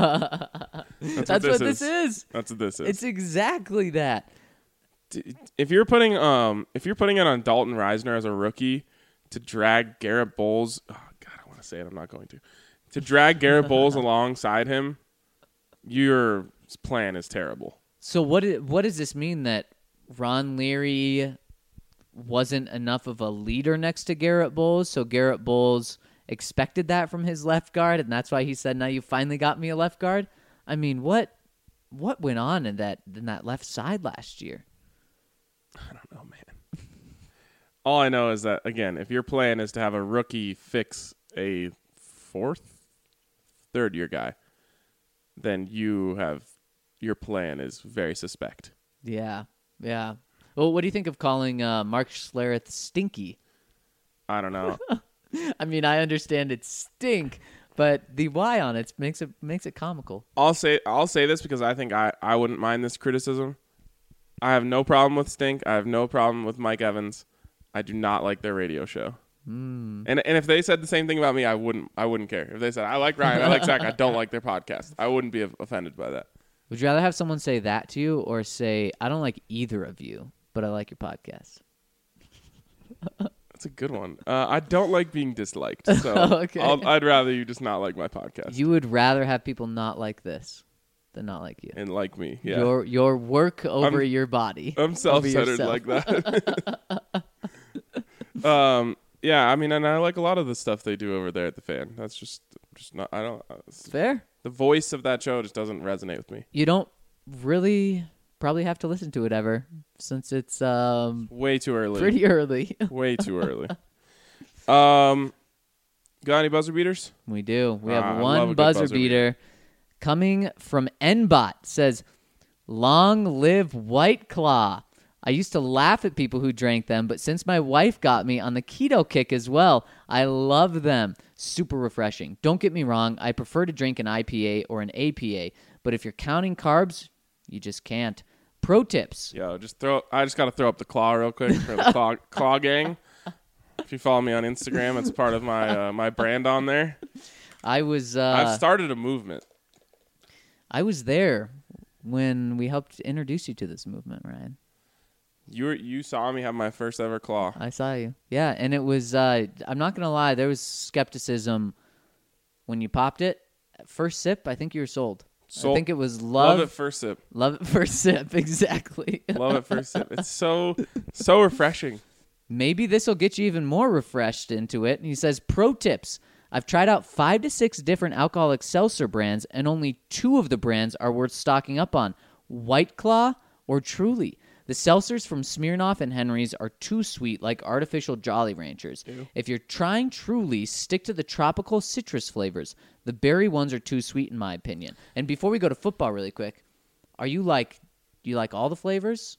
That's what this is. That's what this is. It's exactly that. If you're putting it on Dalton Reisner as a rookie to drag Garrett Bowles, oh God, I want to say it, I'm not going to drag Garrett Bowles alongside him, your plan is terrible. So what does this mean, that Ron Leary wasn't enough of a leader next to Garrett Bowles, so Garrett Bowles expected that from his left guard, and that's why he said, "Now you finally got me a left guard"? I mean, what went on in that left side last year? I don't know, man. All I know is that, again, if your plan is to have a rookie fix a third-year guy, then your plan is very suspect. Yeah. Well, what do you think of calling Mark Schlereth stinky? I don't know. I mean, I understand it's stink, but the Y on it makes it comical. I'll say this because I think I wouldn't mind this criticism. I have no problem with Stink. I have no problem with Mike Evans. I do not like their radio show. And if they said the same thing about me, I wouldn't care. If they said, "I like Ryan, I like Zach, I don't like their podcast," I wouldn't be offended by that. Would you rather have someone say that to you, or say, "I don't like either of you, but I like your podcast"? That's a good one. I don't like being disliked, so Okay. I'd rather you just not like my podcast. You would rather have people not like this than not like you. And like me, yeah. Your work over your body. I'm self-centered like that. Yeah, I mean, and I like a lot of the stuff they do over there at the Fan. That's just not. I don't. Fair. The voice of that show just doesn't resonate with me. You don't really probably have to listen to it ever, since it's way too early. pretty early. Way too early. Got any buzzer beaters? We do. We I have love a one good buzzer buzzer beater coming from Nbot. Says, "Long live White Claw. I used to laugh at people who drank them, but since my wife got me on the keto kick as well, I love them. Super refreshing. Don't get me wrong, I prefer to drink an IPA or an APA, but if you're counting carbs, you just can't. Pro tips." Yo, I just got to throw up the claw real quick for the claw gang. If you follow me on Instagram, it's part of my my brand on there. I've started a movement. I was there when we helped introduce you to this movement, Ryan. You saw me have my first ever claw. I saw you. Yeah, and it was, I'm not going to lie, there was skepticism when you popped it. First sip, I think you were sold. I think it was love at first sip. Love at first sip, exactly. Love at first sip. It's so refreshing. Maybe this will get you even more refreshed into it. And he says, "Pro tips. I've tried out 5 to 6 different alcoholic seltzer brands, and only 2 of the brands are worth stocking up on. White Claw or Truly. The seltzers from Smirnoff and Henry's are too sweet, like artificial Jolly Ranchers. Ew. If you're trying Truly, stick to the tropical citrus flavors. The berry ones are too sweet, in my opinion." And before we go to football really quick, do you like all the flavors?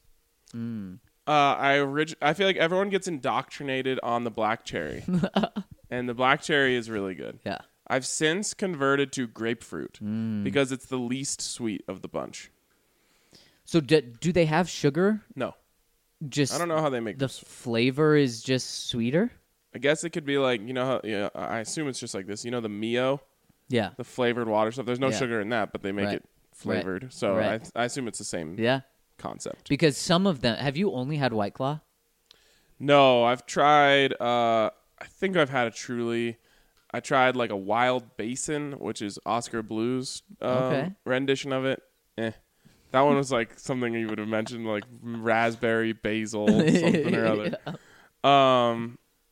I feel like everyone gets indoctrinated on the black cherry. And the black cherry is really good. Yeah. I've since converted to grapefruit because it's the least sweet of the bunch. So do they have sugar? No. Just I don't know how they make the this. flavor is just sweeter? I guess it could be like, I assume it's just like this. You know the Mio, Yeah. the flavored water stuff? There's no Yeah. sugar in that, but they make Right. it flavored. So Right. I assume it's the same Yeah. concept. Because some of them, have you only had White Claw? No, I've tried, I think I've had a Truly. I tried like a Wild Basin, which is Oscar Blues Okay. rendition of it. That one was like something you would have mentioned, like raspberry, basil, something or other. Yeah.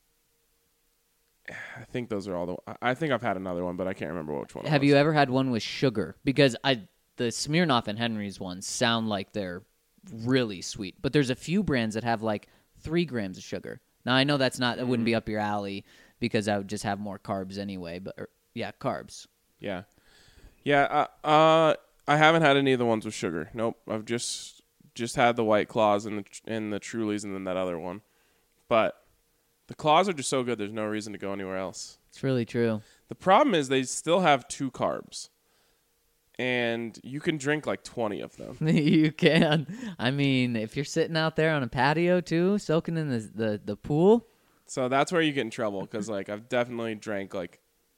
I think those are all I think I've had another one, but I can't remember which one. Have you ever had one with sugar? Because the Smirnoff and Henry's ones sound like they're really sweet, but there's a few brands that have like 3 grams of sugar. Now I know that wouldn't be up your alley because I would just have more carbs anyway. But carbs. Yeah. I haven't had any of the ones with sugar. Nope. I've just just had the White Claws and the Trulies and then that other one. But the Claws are just so good, there's no reason to go anywhere else. It's really true. The problem is they still have 2 carbs. And you can drink like 20 of them. You can. I mean, if you're sitting out there on a patio too, soaking in the pool. So that's where you get in trouble because like I've definitely drank like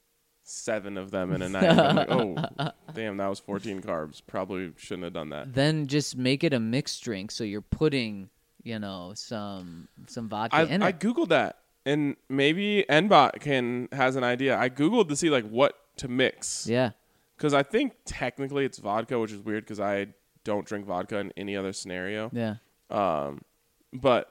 7 of them in a night. I'm like, oh, damn, that was 14 carbs. Probably shouldn't have done that. Then just make it a mixed drink, so you're putting, some vodka in it. I Googled that, and maybe Nbot has an idea. I Googled to see like what to mix. Yeah. Because I think technically it's vodka, which is weird because I don't drink vodka in any other scenario. Yeah. But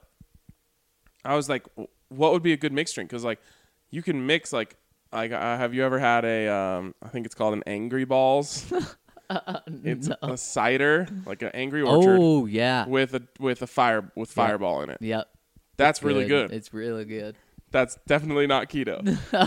I was like, what would be a good mixed drink? Because like you can mix like have you ever had I think it's called an Angry Balls. It's a cider, like an Angry Orchard. Oh yeah. With Fireball in it. Yep. That's really good. It's really good. That's definitely not keto.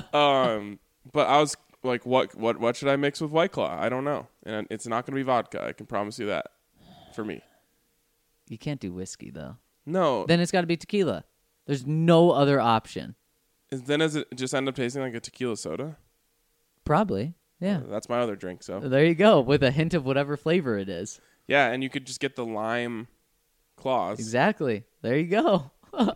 But I was like, what should I mix with White Claw? I don't know. And it's not going to be vodka. I can promise you that for me. You can't do whiskey, though. No. Then it's got to be tequila. There's no other option. Then does it just end up tasting like a tequila soda? Probably, yeah. That's my other drink, so. There you go, with a hint of whatever flavor it is. Yeah, and you could just get the lime claws. Exactly. There you go.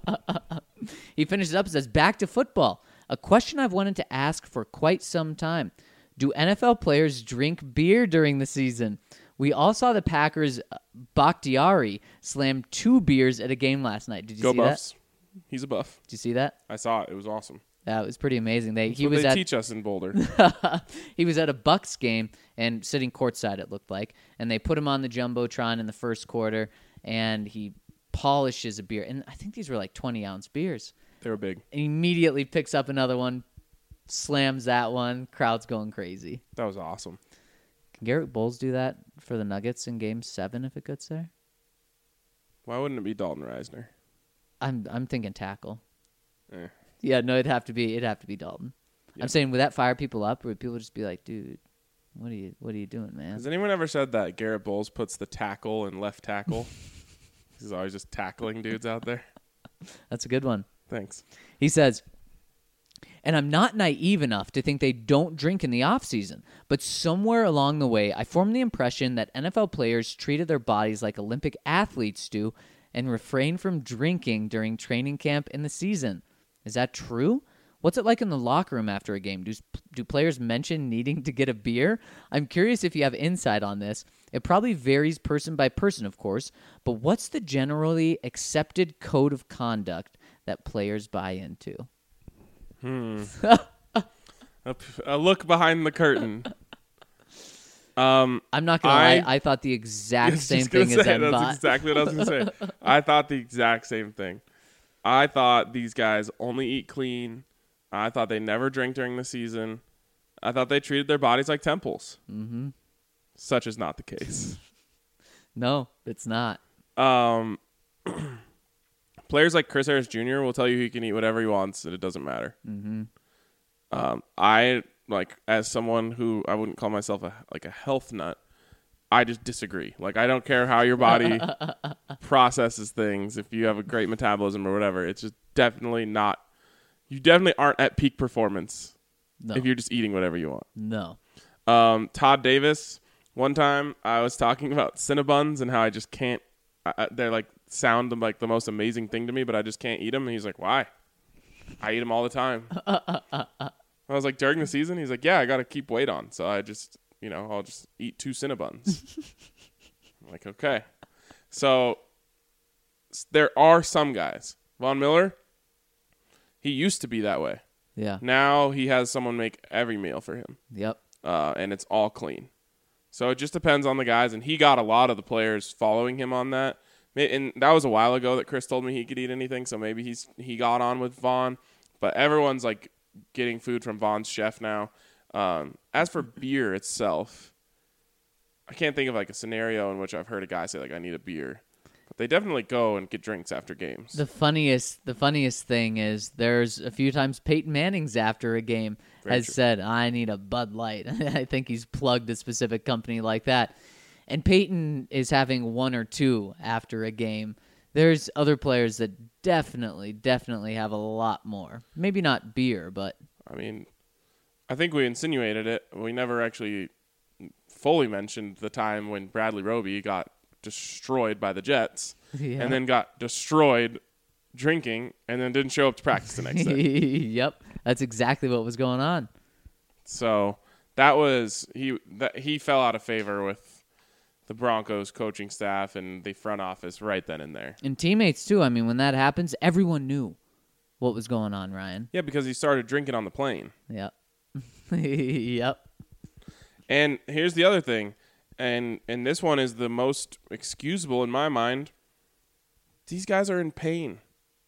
He finishes up and says, back to football. A question I've wanted to ask for quite some time. Do NFL players drink beer during the season? We all saw the Packers' Bakhtiari slam 2 beers at a game last night. Did you Go see Buffs. that? He's a Buff. Did you see that? I saw it. It was awesome. Yeah, it was pretty amazing. They teach us in Boulder. He was at a Bucks game and sitting courtside, it looked like, and they put him on the Jumbotron in the first quarter, and he polishes a beer. And I think these were like 20-ounce beers. They were big. And immediately picks up another one, slams that one. Crowd's going crazy. That was awesome. Can Garrett Bowles do that for the Nuggets in Game 7 if it gets there? Why wouldn't it be Dalton Reisner? I'm thinking tackle. Eh. Yeah, no, it'd have to be Dalton. Yep. I'm saying, would that fire people up, or would people just be like, dude, what are you doing, man? Has anyone ever said that Garrett Bowles puts the tackle in left tackle? He's always just tackling dudes out there. That's a good one. Thanks. He says, and I'm not naive enough to think they don't drink in the offseason, but somewhere along the way, I formed the impression that NFL players treated their bodies like Olympic athletes do and refrain from drinking during training camp in the season. Is that true? What's it like in the locker room after a game? Do players mention needing to get a beer? I'm curious if you have insight on this. It probably varies person by person, of course, but what's the generally accepted code of conduct that players buy into? A look behind the curtain. I'm not going to lie. I thought the exact same thing as Mbot. That's exactly what I was going to say. I thought the exact same thing. I thought these guys only eat clean. I thought they never drink during the season. I thought they treated their bodies like temples. Mm-hmm. Such is not the case. No, it's not. Players like Chris Harris Jr. will tell you he can eat whatever he wants and it doesn't matter. Mm-hmm. I, as someone who I wouldn't call myself a health nut, I just disagree. I don't care how your body processes things. If you have a great metabolism or whatever, it's just definitely not. You definitely aren't at peak performance if you're just eating whatever you want. No. Todd Davis, one time I was talking about Cinnabons and how I just can't. They're sound like the most amazing thing to me, but I just can't eat them. And he's like, "Why? I eat them all the time." I was like, "During the season?" He's like, "Yeah, I got to keep weight on, so I just." I'll just eat 2 Cinnabons. I'm like, okay. So there are some guys. Von Miller, he used to be that way. Yeah. Now he has someone make every meal for him. Yep. And it's all clean. So it just depends on the guys. And he got a lot of the players following him on that. And that was a while ago that Chris told me he could eat anything. So maybe he got on with Von. But everyone's getting food from Von's chef now. As for beer itself, I can't think of a scenario in which I've heard a guy say I need a beer, but they definitely go and get drinks after games. The funniest thing is there's a few times Peyton Manning's after a game said, "I need a Bud Light." I think he's plugged a specific company like that. And Peyton is having one or two after a game. There's other players that definitely have a lot more. Maybe not beer, but I mean, I think we insinuated it. We never actually fully mentioned the time when Bradley Roby got destroyed by the Jets Yeah. and then got destroyed drinking and then didn't show up to practice the next day. Yep, that's exactly what was going on. So he fell out of favor with the Broncos coaching staff and the front office right then and there. And teammates, too. I mean, when that happens, everyone knew what was going on, Ryan. Yeah, because he started drinking on the plane. Yep. Yep. And here's the other thing, and this one is the most excusable in my mind. These guys are in pain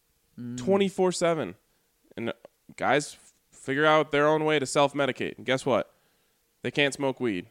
24/7. And guys figure out their own way to self-medicate. And guess what? They can't smoke weed.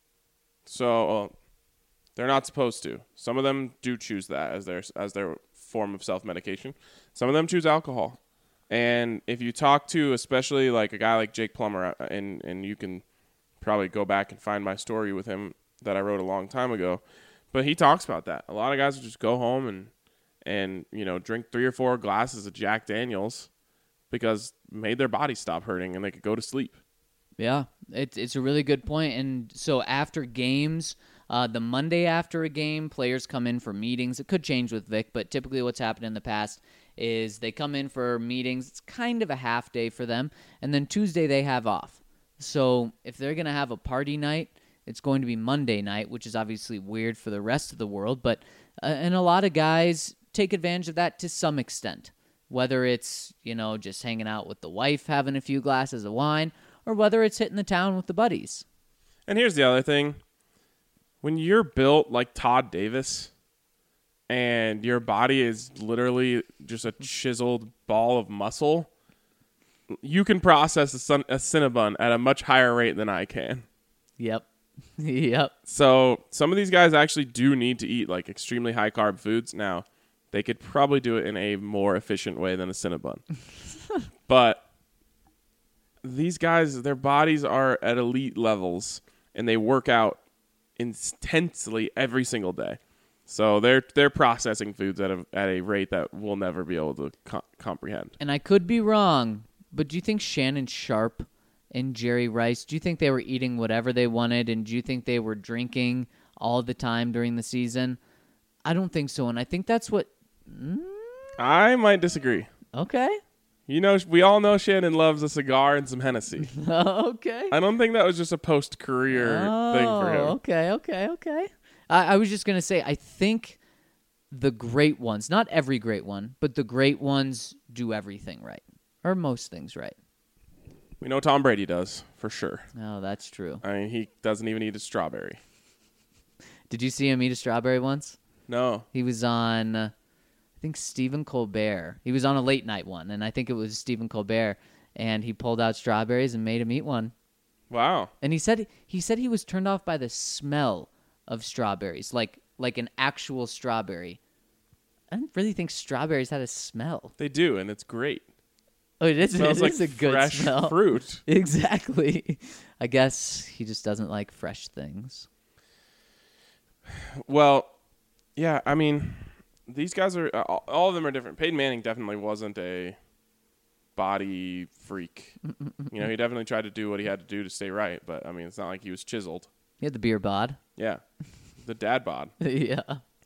So they're not supposed to. Some of them do choose that as their form of self-medication. Some of them choose alcohol. And if you talk to especially like a guy like Jake Plummer, and you can probably go back and find my story with him that I wrote a long time ago, but he talks about that. A lot of guys will just go home and drink 3 or 4 glasses of Jack Daniels because it made their body stop hurting and they could go to sleep. Yeah, it's a really good point. And so after games, the Monday after a game, players come in for meetings. It could change with Vic, but typically what's happened in the past is they come in for meetings. It's kind of a half day for them. And then Tuesday they have off. So if they're going to have a party night, it's going to be Monday night, which is obviously weird for the rest of the world. But and a lot of guys take advantage of that to some extent, whether it's, just hanging out with the wife, having a few glasses of wine, or whether it's hitting the town with the buddies. And here's the other thing. When you're built like Todd Davis and your body is literally just a chiseled ball of muscle, you can process a Cinnabon at a much higher rate than I can. Yep. Yep. So some of these guys actually do need to eat like extremely high carb foods. Now, they could probably do it in a more efficient way than a Cinnabon. But these guys, their bodies are at elite levels and they work out intensely every single day. So they're processing foods at a rate that we'll never be able to comprehend. And I could be wrong, but do you think Shannon Sharp and Jerry Rice, do you think they were eating whatever they wanted, and do you think they were drinking all the time during the season? I don't think so, and I think that's what... I might disagree. Okay. We all know Shannon loves a cigar and some Hennessy. Okay. I don't think that was just a post-career thing for him. Okay. I was just going to say, I think the great ones, not every great one, but the great ones do everything right, or most things right. We know Tom Brady does, for sure. Oh, that's true. I mean, he doesn't even eat a strawberry. Did you see him eat a strawberry once? No. He was on, I think, Stephen Colbert. He was on a late night one, and I think it was Stephen Colbert, and he pulled out strawberries and made him eat one. Wow. And he said he was turned off by the smell of strawberries, like an actual strawberry. I don't really think strawberries had a smell. They do, and it's great. Oh, it Smells like is a good fresh smell. fruit. Exactly. I guess he just doesn't like fresh things. Well, yeah, I mean, these guys are all of them are different. Peyton Manning definitely wasn't a body freak. He definitely tried to do what he had to do to stay right, but I mean, it's not like he was chiseled. He had the beer bod. Yeah, the dad bod. Yeah.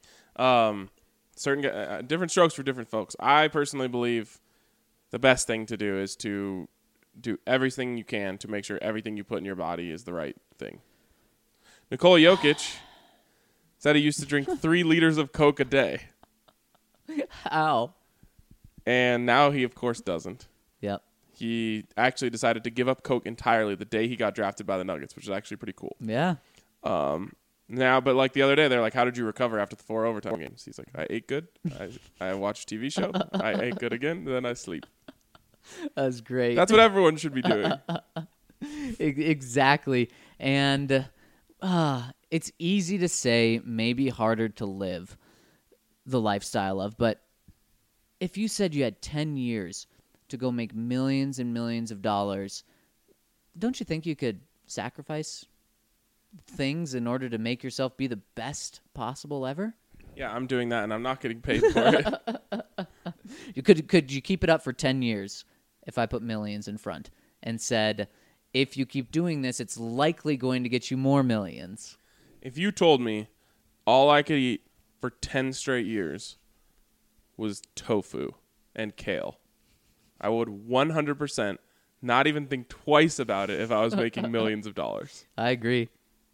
Certain different strokes for different folks. I personally believe the best thing to do is to do everything you can to make sure everything you put in your body is the right thing. Nikola Jokic said he used to drink 3 liters of Coke a day. How? And now he, of course, doesn't. Yep. He actually decided to give up Coke entirely the day he got drafted by the Nuggets, which is actually pretty cool. Yeah. But like the other day, they're like, how did you recover after the 4 overtime games? He's like, I ate good. I watched a TV show. I ate good again. Then I sleep. That's great. That's what everyone should be doing. Exactly. And it's easy to say, maybe harder to live the lifestyle of, but if you said you had 10 years to go make millions and millions of dollars, don't you think you could sacrifice things in order to make yourself be the best possible ever? Yeah, I'm doing that, and I'm not getting paid for it. Could you keep it up for 10 years if I put millions in front and said, if you keep doing this, it's likely going to get you more millions? If you told me all I could eat for 10 straight years was tofu and kale, I would 100% not even think twice about it if I was making millions of dollars. I agree.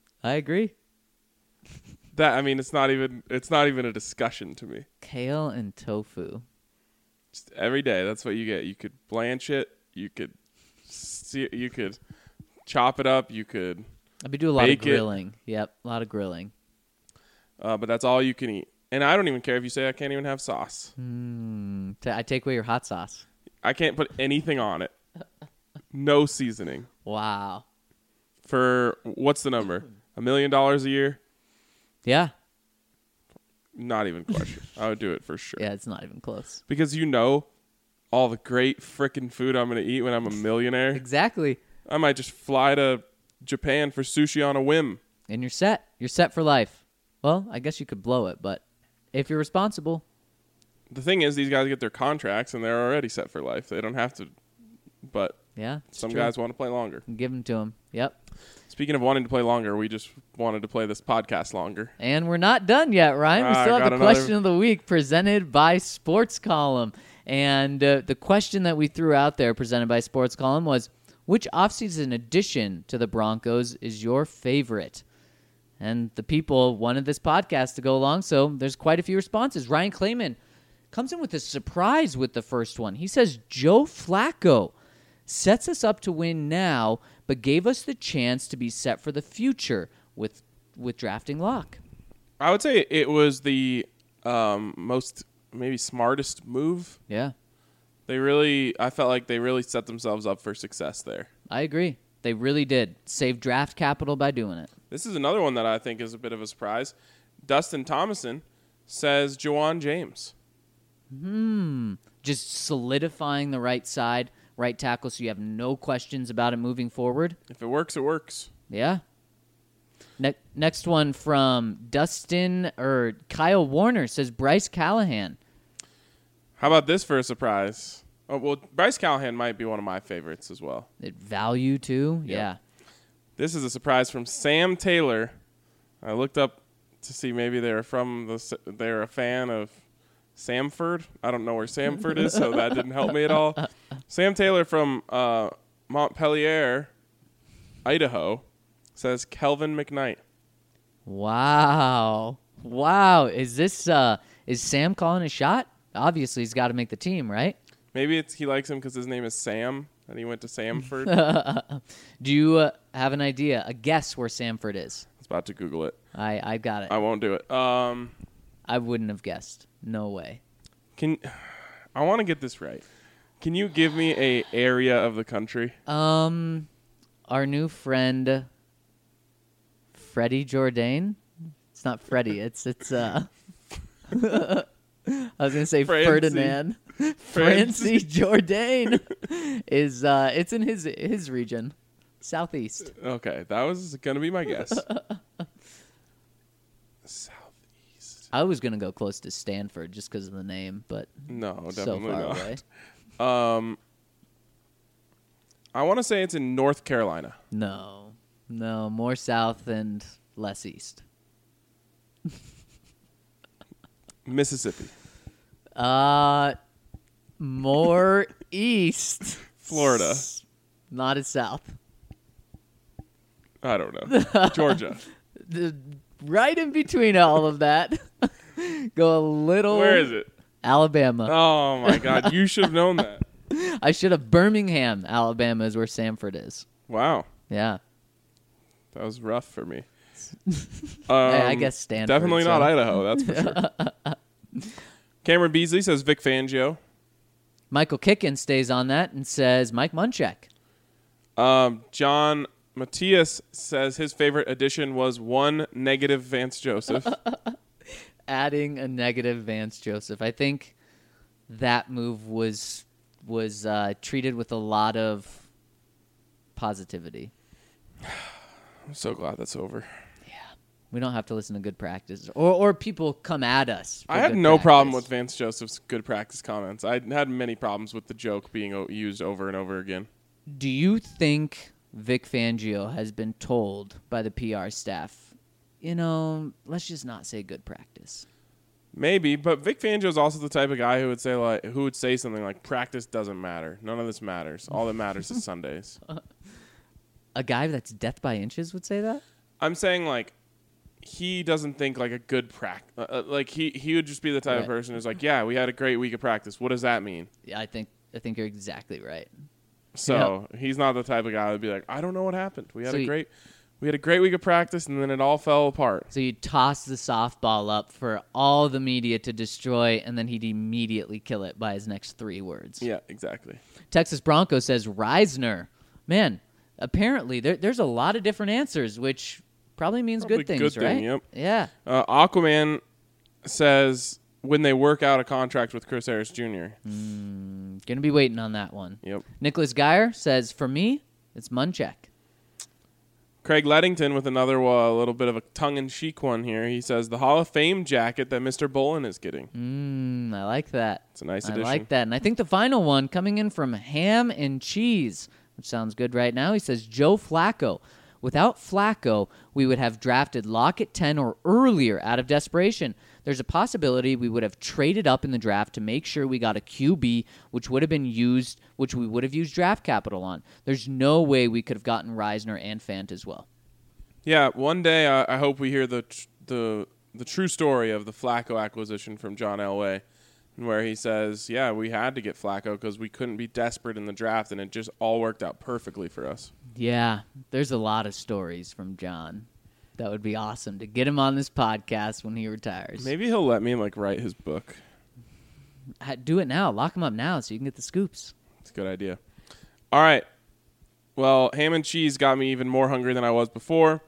That, I mean, it's not even a discussion to me. Kale and tofu. Just every day, that's what you get. You could blanch it. You could chop it up. You could I'd be doing a lot of bake it. grilling. Yep, a lot of grilling. But that's all you can eat. And I don't even care if you say I can't even have sauce. I take away your hot sauce. I can't put anything on it. No seasoning. Wow. For, what's the number? $1 million a year? Yeah. Not even question. I would do it for sure. Yeah, it's not even close. Because you know all the great frickin' food I'm going to eat when I'm a millionaire. Exactly. I might just fly to Japan for sushi on a whim. And you're set. You're set for life. Well, I guess you could blow it, but if you're responsible. The thing is, these guys get their contracts and they're already set for life. They don't have to. But Yeah. some true. guys want to play longer. Give them to them. Yep. Speaking of wanting to play longer, we just wanted to play this podcast longer. And we're not done yet, Ryan. We still have got the another- question of the week presented by Sports Column. And the question that we threw out there presented by Sports Column was, which offseason addition to the Broncos is your favorite? And the people wanted this podcast to go along, so there's quite a few responses. Ryan Clayman comes in with a surprise with the first one. He says, Joe Flacco sets us up to win now, but gave us the chance to be set for the future with drafting Locke. I would say it was the most maybe smartest move. Yeah, I felt like they really set themselves up for success there. I agree. They really did. Save draft capital by doing it. This is another one that I think is a bit of a surprise. Dustin Thomason says Juwan James. Just solidifying the right side, right tackle, so you have no questions about it moving forward. If it works, it works. Yeah. Next one from Kyle Warner says Bryce Callahan. How about this for a surprise? Oh, well, Bryce Callahan might be one of my favorites as well. Value too? Yep. Yeah. This is a surprise from Sam Taylor. I looked up to see maybe they're a fan of Samford. I don't know where Samford is, so that didn't help me at all. Sam Taylor from Montpelier, Idaho, says Kelvin McKnight. Wow. Is Sam calling a shot? Obviously, he's got to make the team, right? Maybe he likes him because his name is Sam, and he went to Samford. Do you have an idea, a guess where Samford is? I was about to Google it. I got it. I won't do it. I wouldn't have guessed. No way. I want to get this right. Can you give me a area of the country? Our new friend, Freddie Jourdain. It's not Freddie. It's I was gonna say Francie. Ferdinand. Francie Jourdain is it's in his region, southeast. Okay, that was gonna be my guess. Southeast. I was gonna go close to Stanford just because of the name, but No, so definitely far not. away. I want to say it's in North Carolina. No, more south and less east. Mississippi. More east. Florida. Not as south. I don't know. Georgia. Right in between all of that. Go a little. Where is it? Alabama. Oh, my God. You should have known that. I should have. Birmingham, Alabama is where Samford is. Wow. Yeah. That was rough for me. I guess Stanford. Definitely so. not Idaho, that's for sure. Cameron Beasley says Vic Fangio. Michael Kicken stays on that and says Mike Munchak. John Matthias says his favorite addition was one negative Vance Joseph. Adding a negative Vance Joseph. I think that move was treated with a lot of positivity. I'm so glad that's over. We don't have to listen to good practice, or people come at us. For I have good no problem with practice. Vance Joseph's good practice comments. I had many problems with the joke being used over and over again. Do you think Vic Fangio has been told by the PR staff, let's just not say good practice? Maybe, but Vic Fangio is also the type of guy who would say something like, "Practice doesn't matter. None of this matters. All that matters is Sundays." A guy that's death by inches would say that? I'm saying like he doesn't think like a good practice. Like he would just be the type of Right. person who's like, "Yeah, we had a great week of practice. What does that mean?" Yeah, I think you're exactly right. So he's not the type of guy that would be like, "I don't know what happened. We had So a great week of practice, and then it all fell apart." So you toss the softball up for all the media to destroy, and then he'd immediately kill it by his next 3 words. Yeah, exactly. Texas Bronco says Reisner. Man, apparently there's a lot of different answers, which probably means Probably good things, good thing, right? yep. Yeah. Aquaman says when they work out a contract with Chris Harris Jr. Gonna be waiting on that one. Yep. Nicholas Geyer says, for me, it's Munchak. Craig Lettington with another little bit of a tongue-in-cheek one here. He says the Hall of Fame jacket that Mr. Bullen is getting. I like that. It's a nice I addition. like that. And I think the final one coming in from Ham and Cheese, which sounds good right now. He says Joe Flacco. Without Flacco, we would have drafted Locke at 10 or earlier out of desperation. There's a possibility we would have traded up in the draft to make sure we got a QB, which we would have used draft capital on. There's no way we could have gotten Reisner and Fant as well. Yeah, one day I hope we hear the true story of the Flacco acquisition from John Elway, where he says, "Yeah, we had to get Flacco because we couldn't be desperate in the draft, and it just all worked out perfectly for us." Yeah, there's a lot of stories from John. That would be awesome to get him on this podcast when he retires. Maybe he'll let me write his book. Do it now. Lock him up now so you can get the scoops. It's a good idea. All right. Well, ham and cheese got me even more hungry than I was before.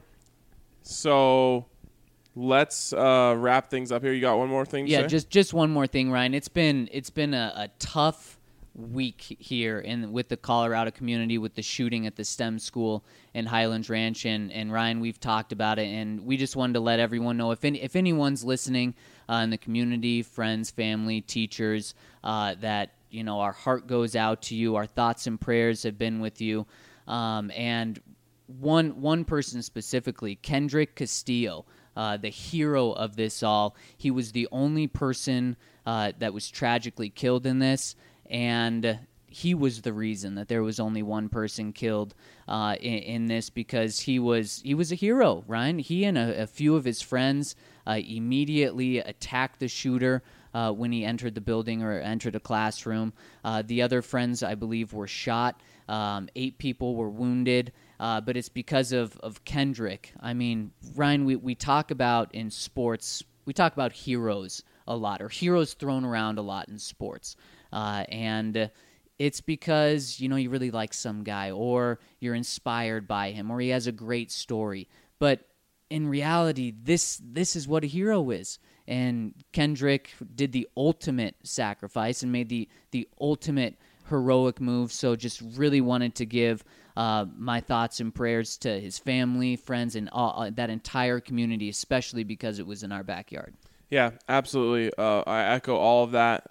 So let's wrap things up here. You got one more thing to Yeah, say? just one more thing, Ryan. It's been a tough week here with the Colorado community, with the shooting at the STEM school in Highlands Ranch, and Ryan, we've talked about it, and we just wanted to let everyone know if anyone's listening in the community, friends, family, teachers, that our heart goes out to you. Our thoughts and prayers have been with you, and one person specifically, Kendrick Castillo, the hero of this all. He was the only person that was tragically killed in this, and he was the reason that there was only one person killed in this, because he was a hero, Ryan. He and a few of his friends immediately attacked the shooter when he entered the building or entered a classroom. The other friends, I believe, were shot. 8 people were wounded. But it's because of Kendrick. I mean, Ryan, we talk about in sports, we talk about heroes a lot, or heroes thrown around a lot in sports. And it's because, you really like some guy, or you're inspired by him, or he has a great story. But in reality, this is what a hero is. And Kendrick did the ultimate sacrifice and made the ultimate heroic move. So just really wanted to give my thoughts and prayers to his family, friends, and that entire community, especially because it was in our backyard. Yeah, absolutely. I echo all of that.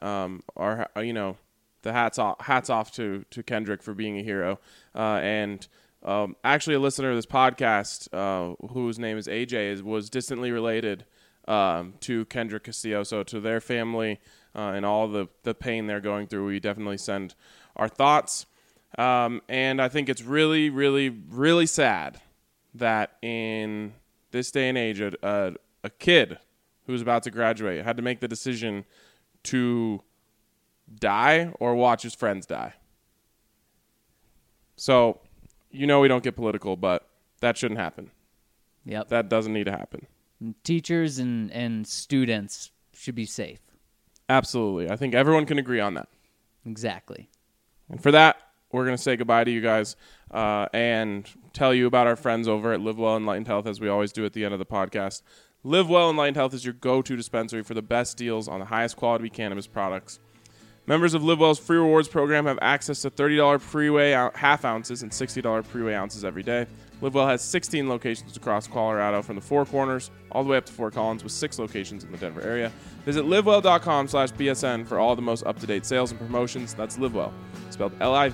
The hats off to Kendrick for being a hero. And actually, a listener of this podcast, whose name is AJ, was distantly related to Kendrick Castillo. So to their family and all the pain they're going through, we definitely send our thoughts. And I think it's really, really, really sad that in this day and age, a kid who's about to graduate had to make the decision to die or watch his friends die. So, we don't get political, but that shouldn't happen. Yep. That doesn't need to happen. Teachers and students should be safe. Absolutely. I think everyone can agree on that. Exactly. And for that, we're going to say goodbye to you guys and tell you about our friends over at Live Well Enlightened Health, as we always do at the end of the podcast. Live Well Enlightened Health is your go-to dispensary for the best deals on the highest quality cannabis products. Members of Live Well's free rewards program have access to $30 pre-weigh half ounces and $60 pre-weigh ounces every day. LiveWell has 16 locations across Colorado from the Four Corners all the way up to Fort Collins with 6 locations in the Denver area. Visit livewell.com/BSN for all the most up-to-date sales and promotions. That's LiveWell, spelled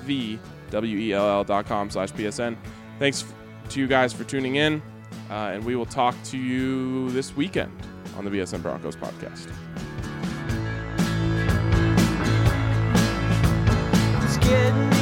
LIVWELL.com/BSN. Thanks to you guys for tuning in, and we will talk to you this weekend on the BSN Broncos podcast. It's getting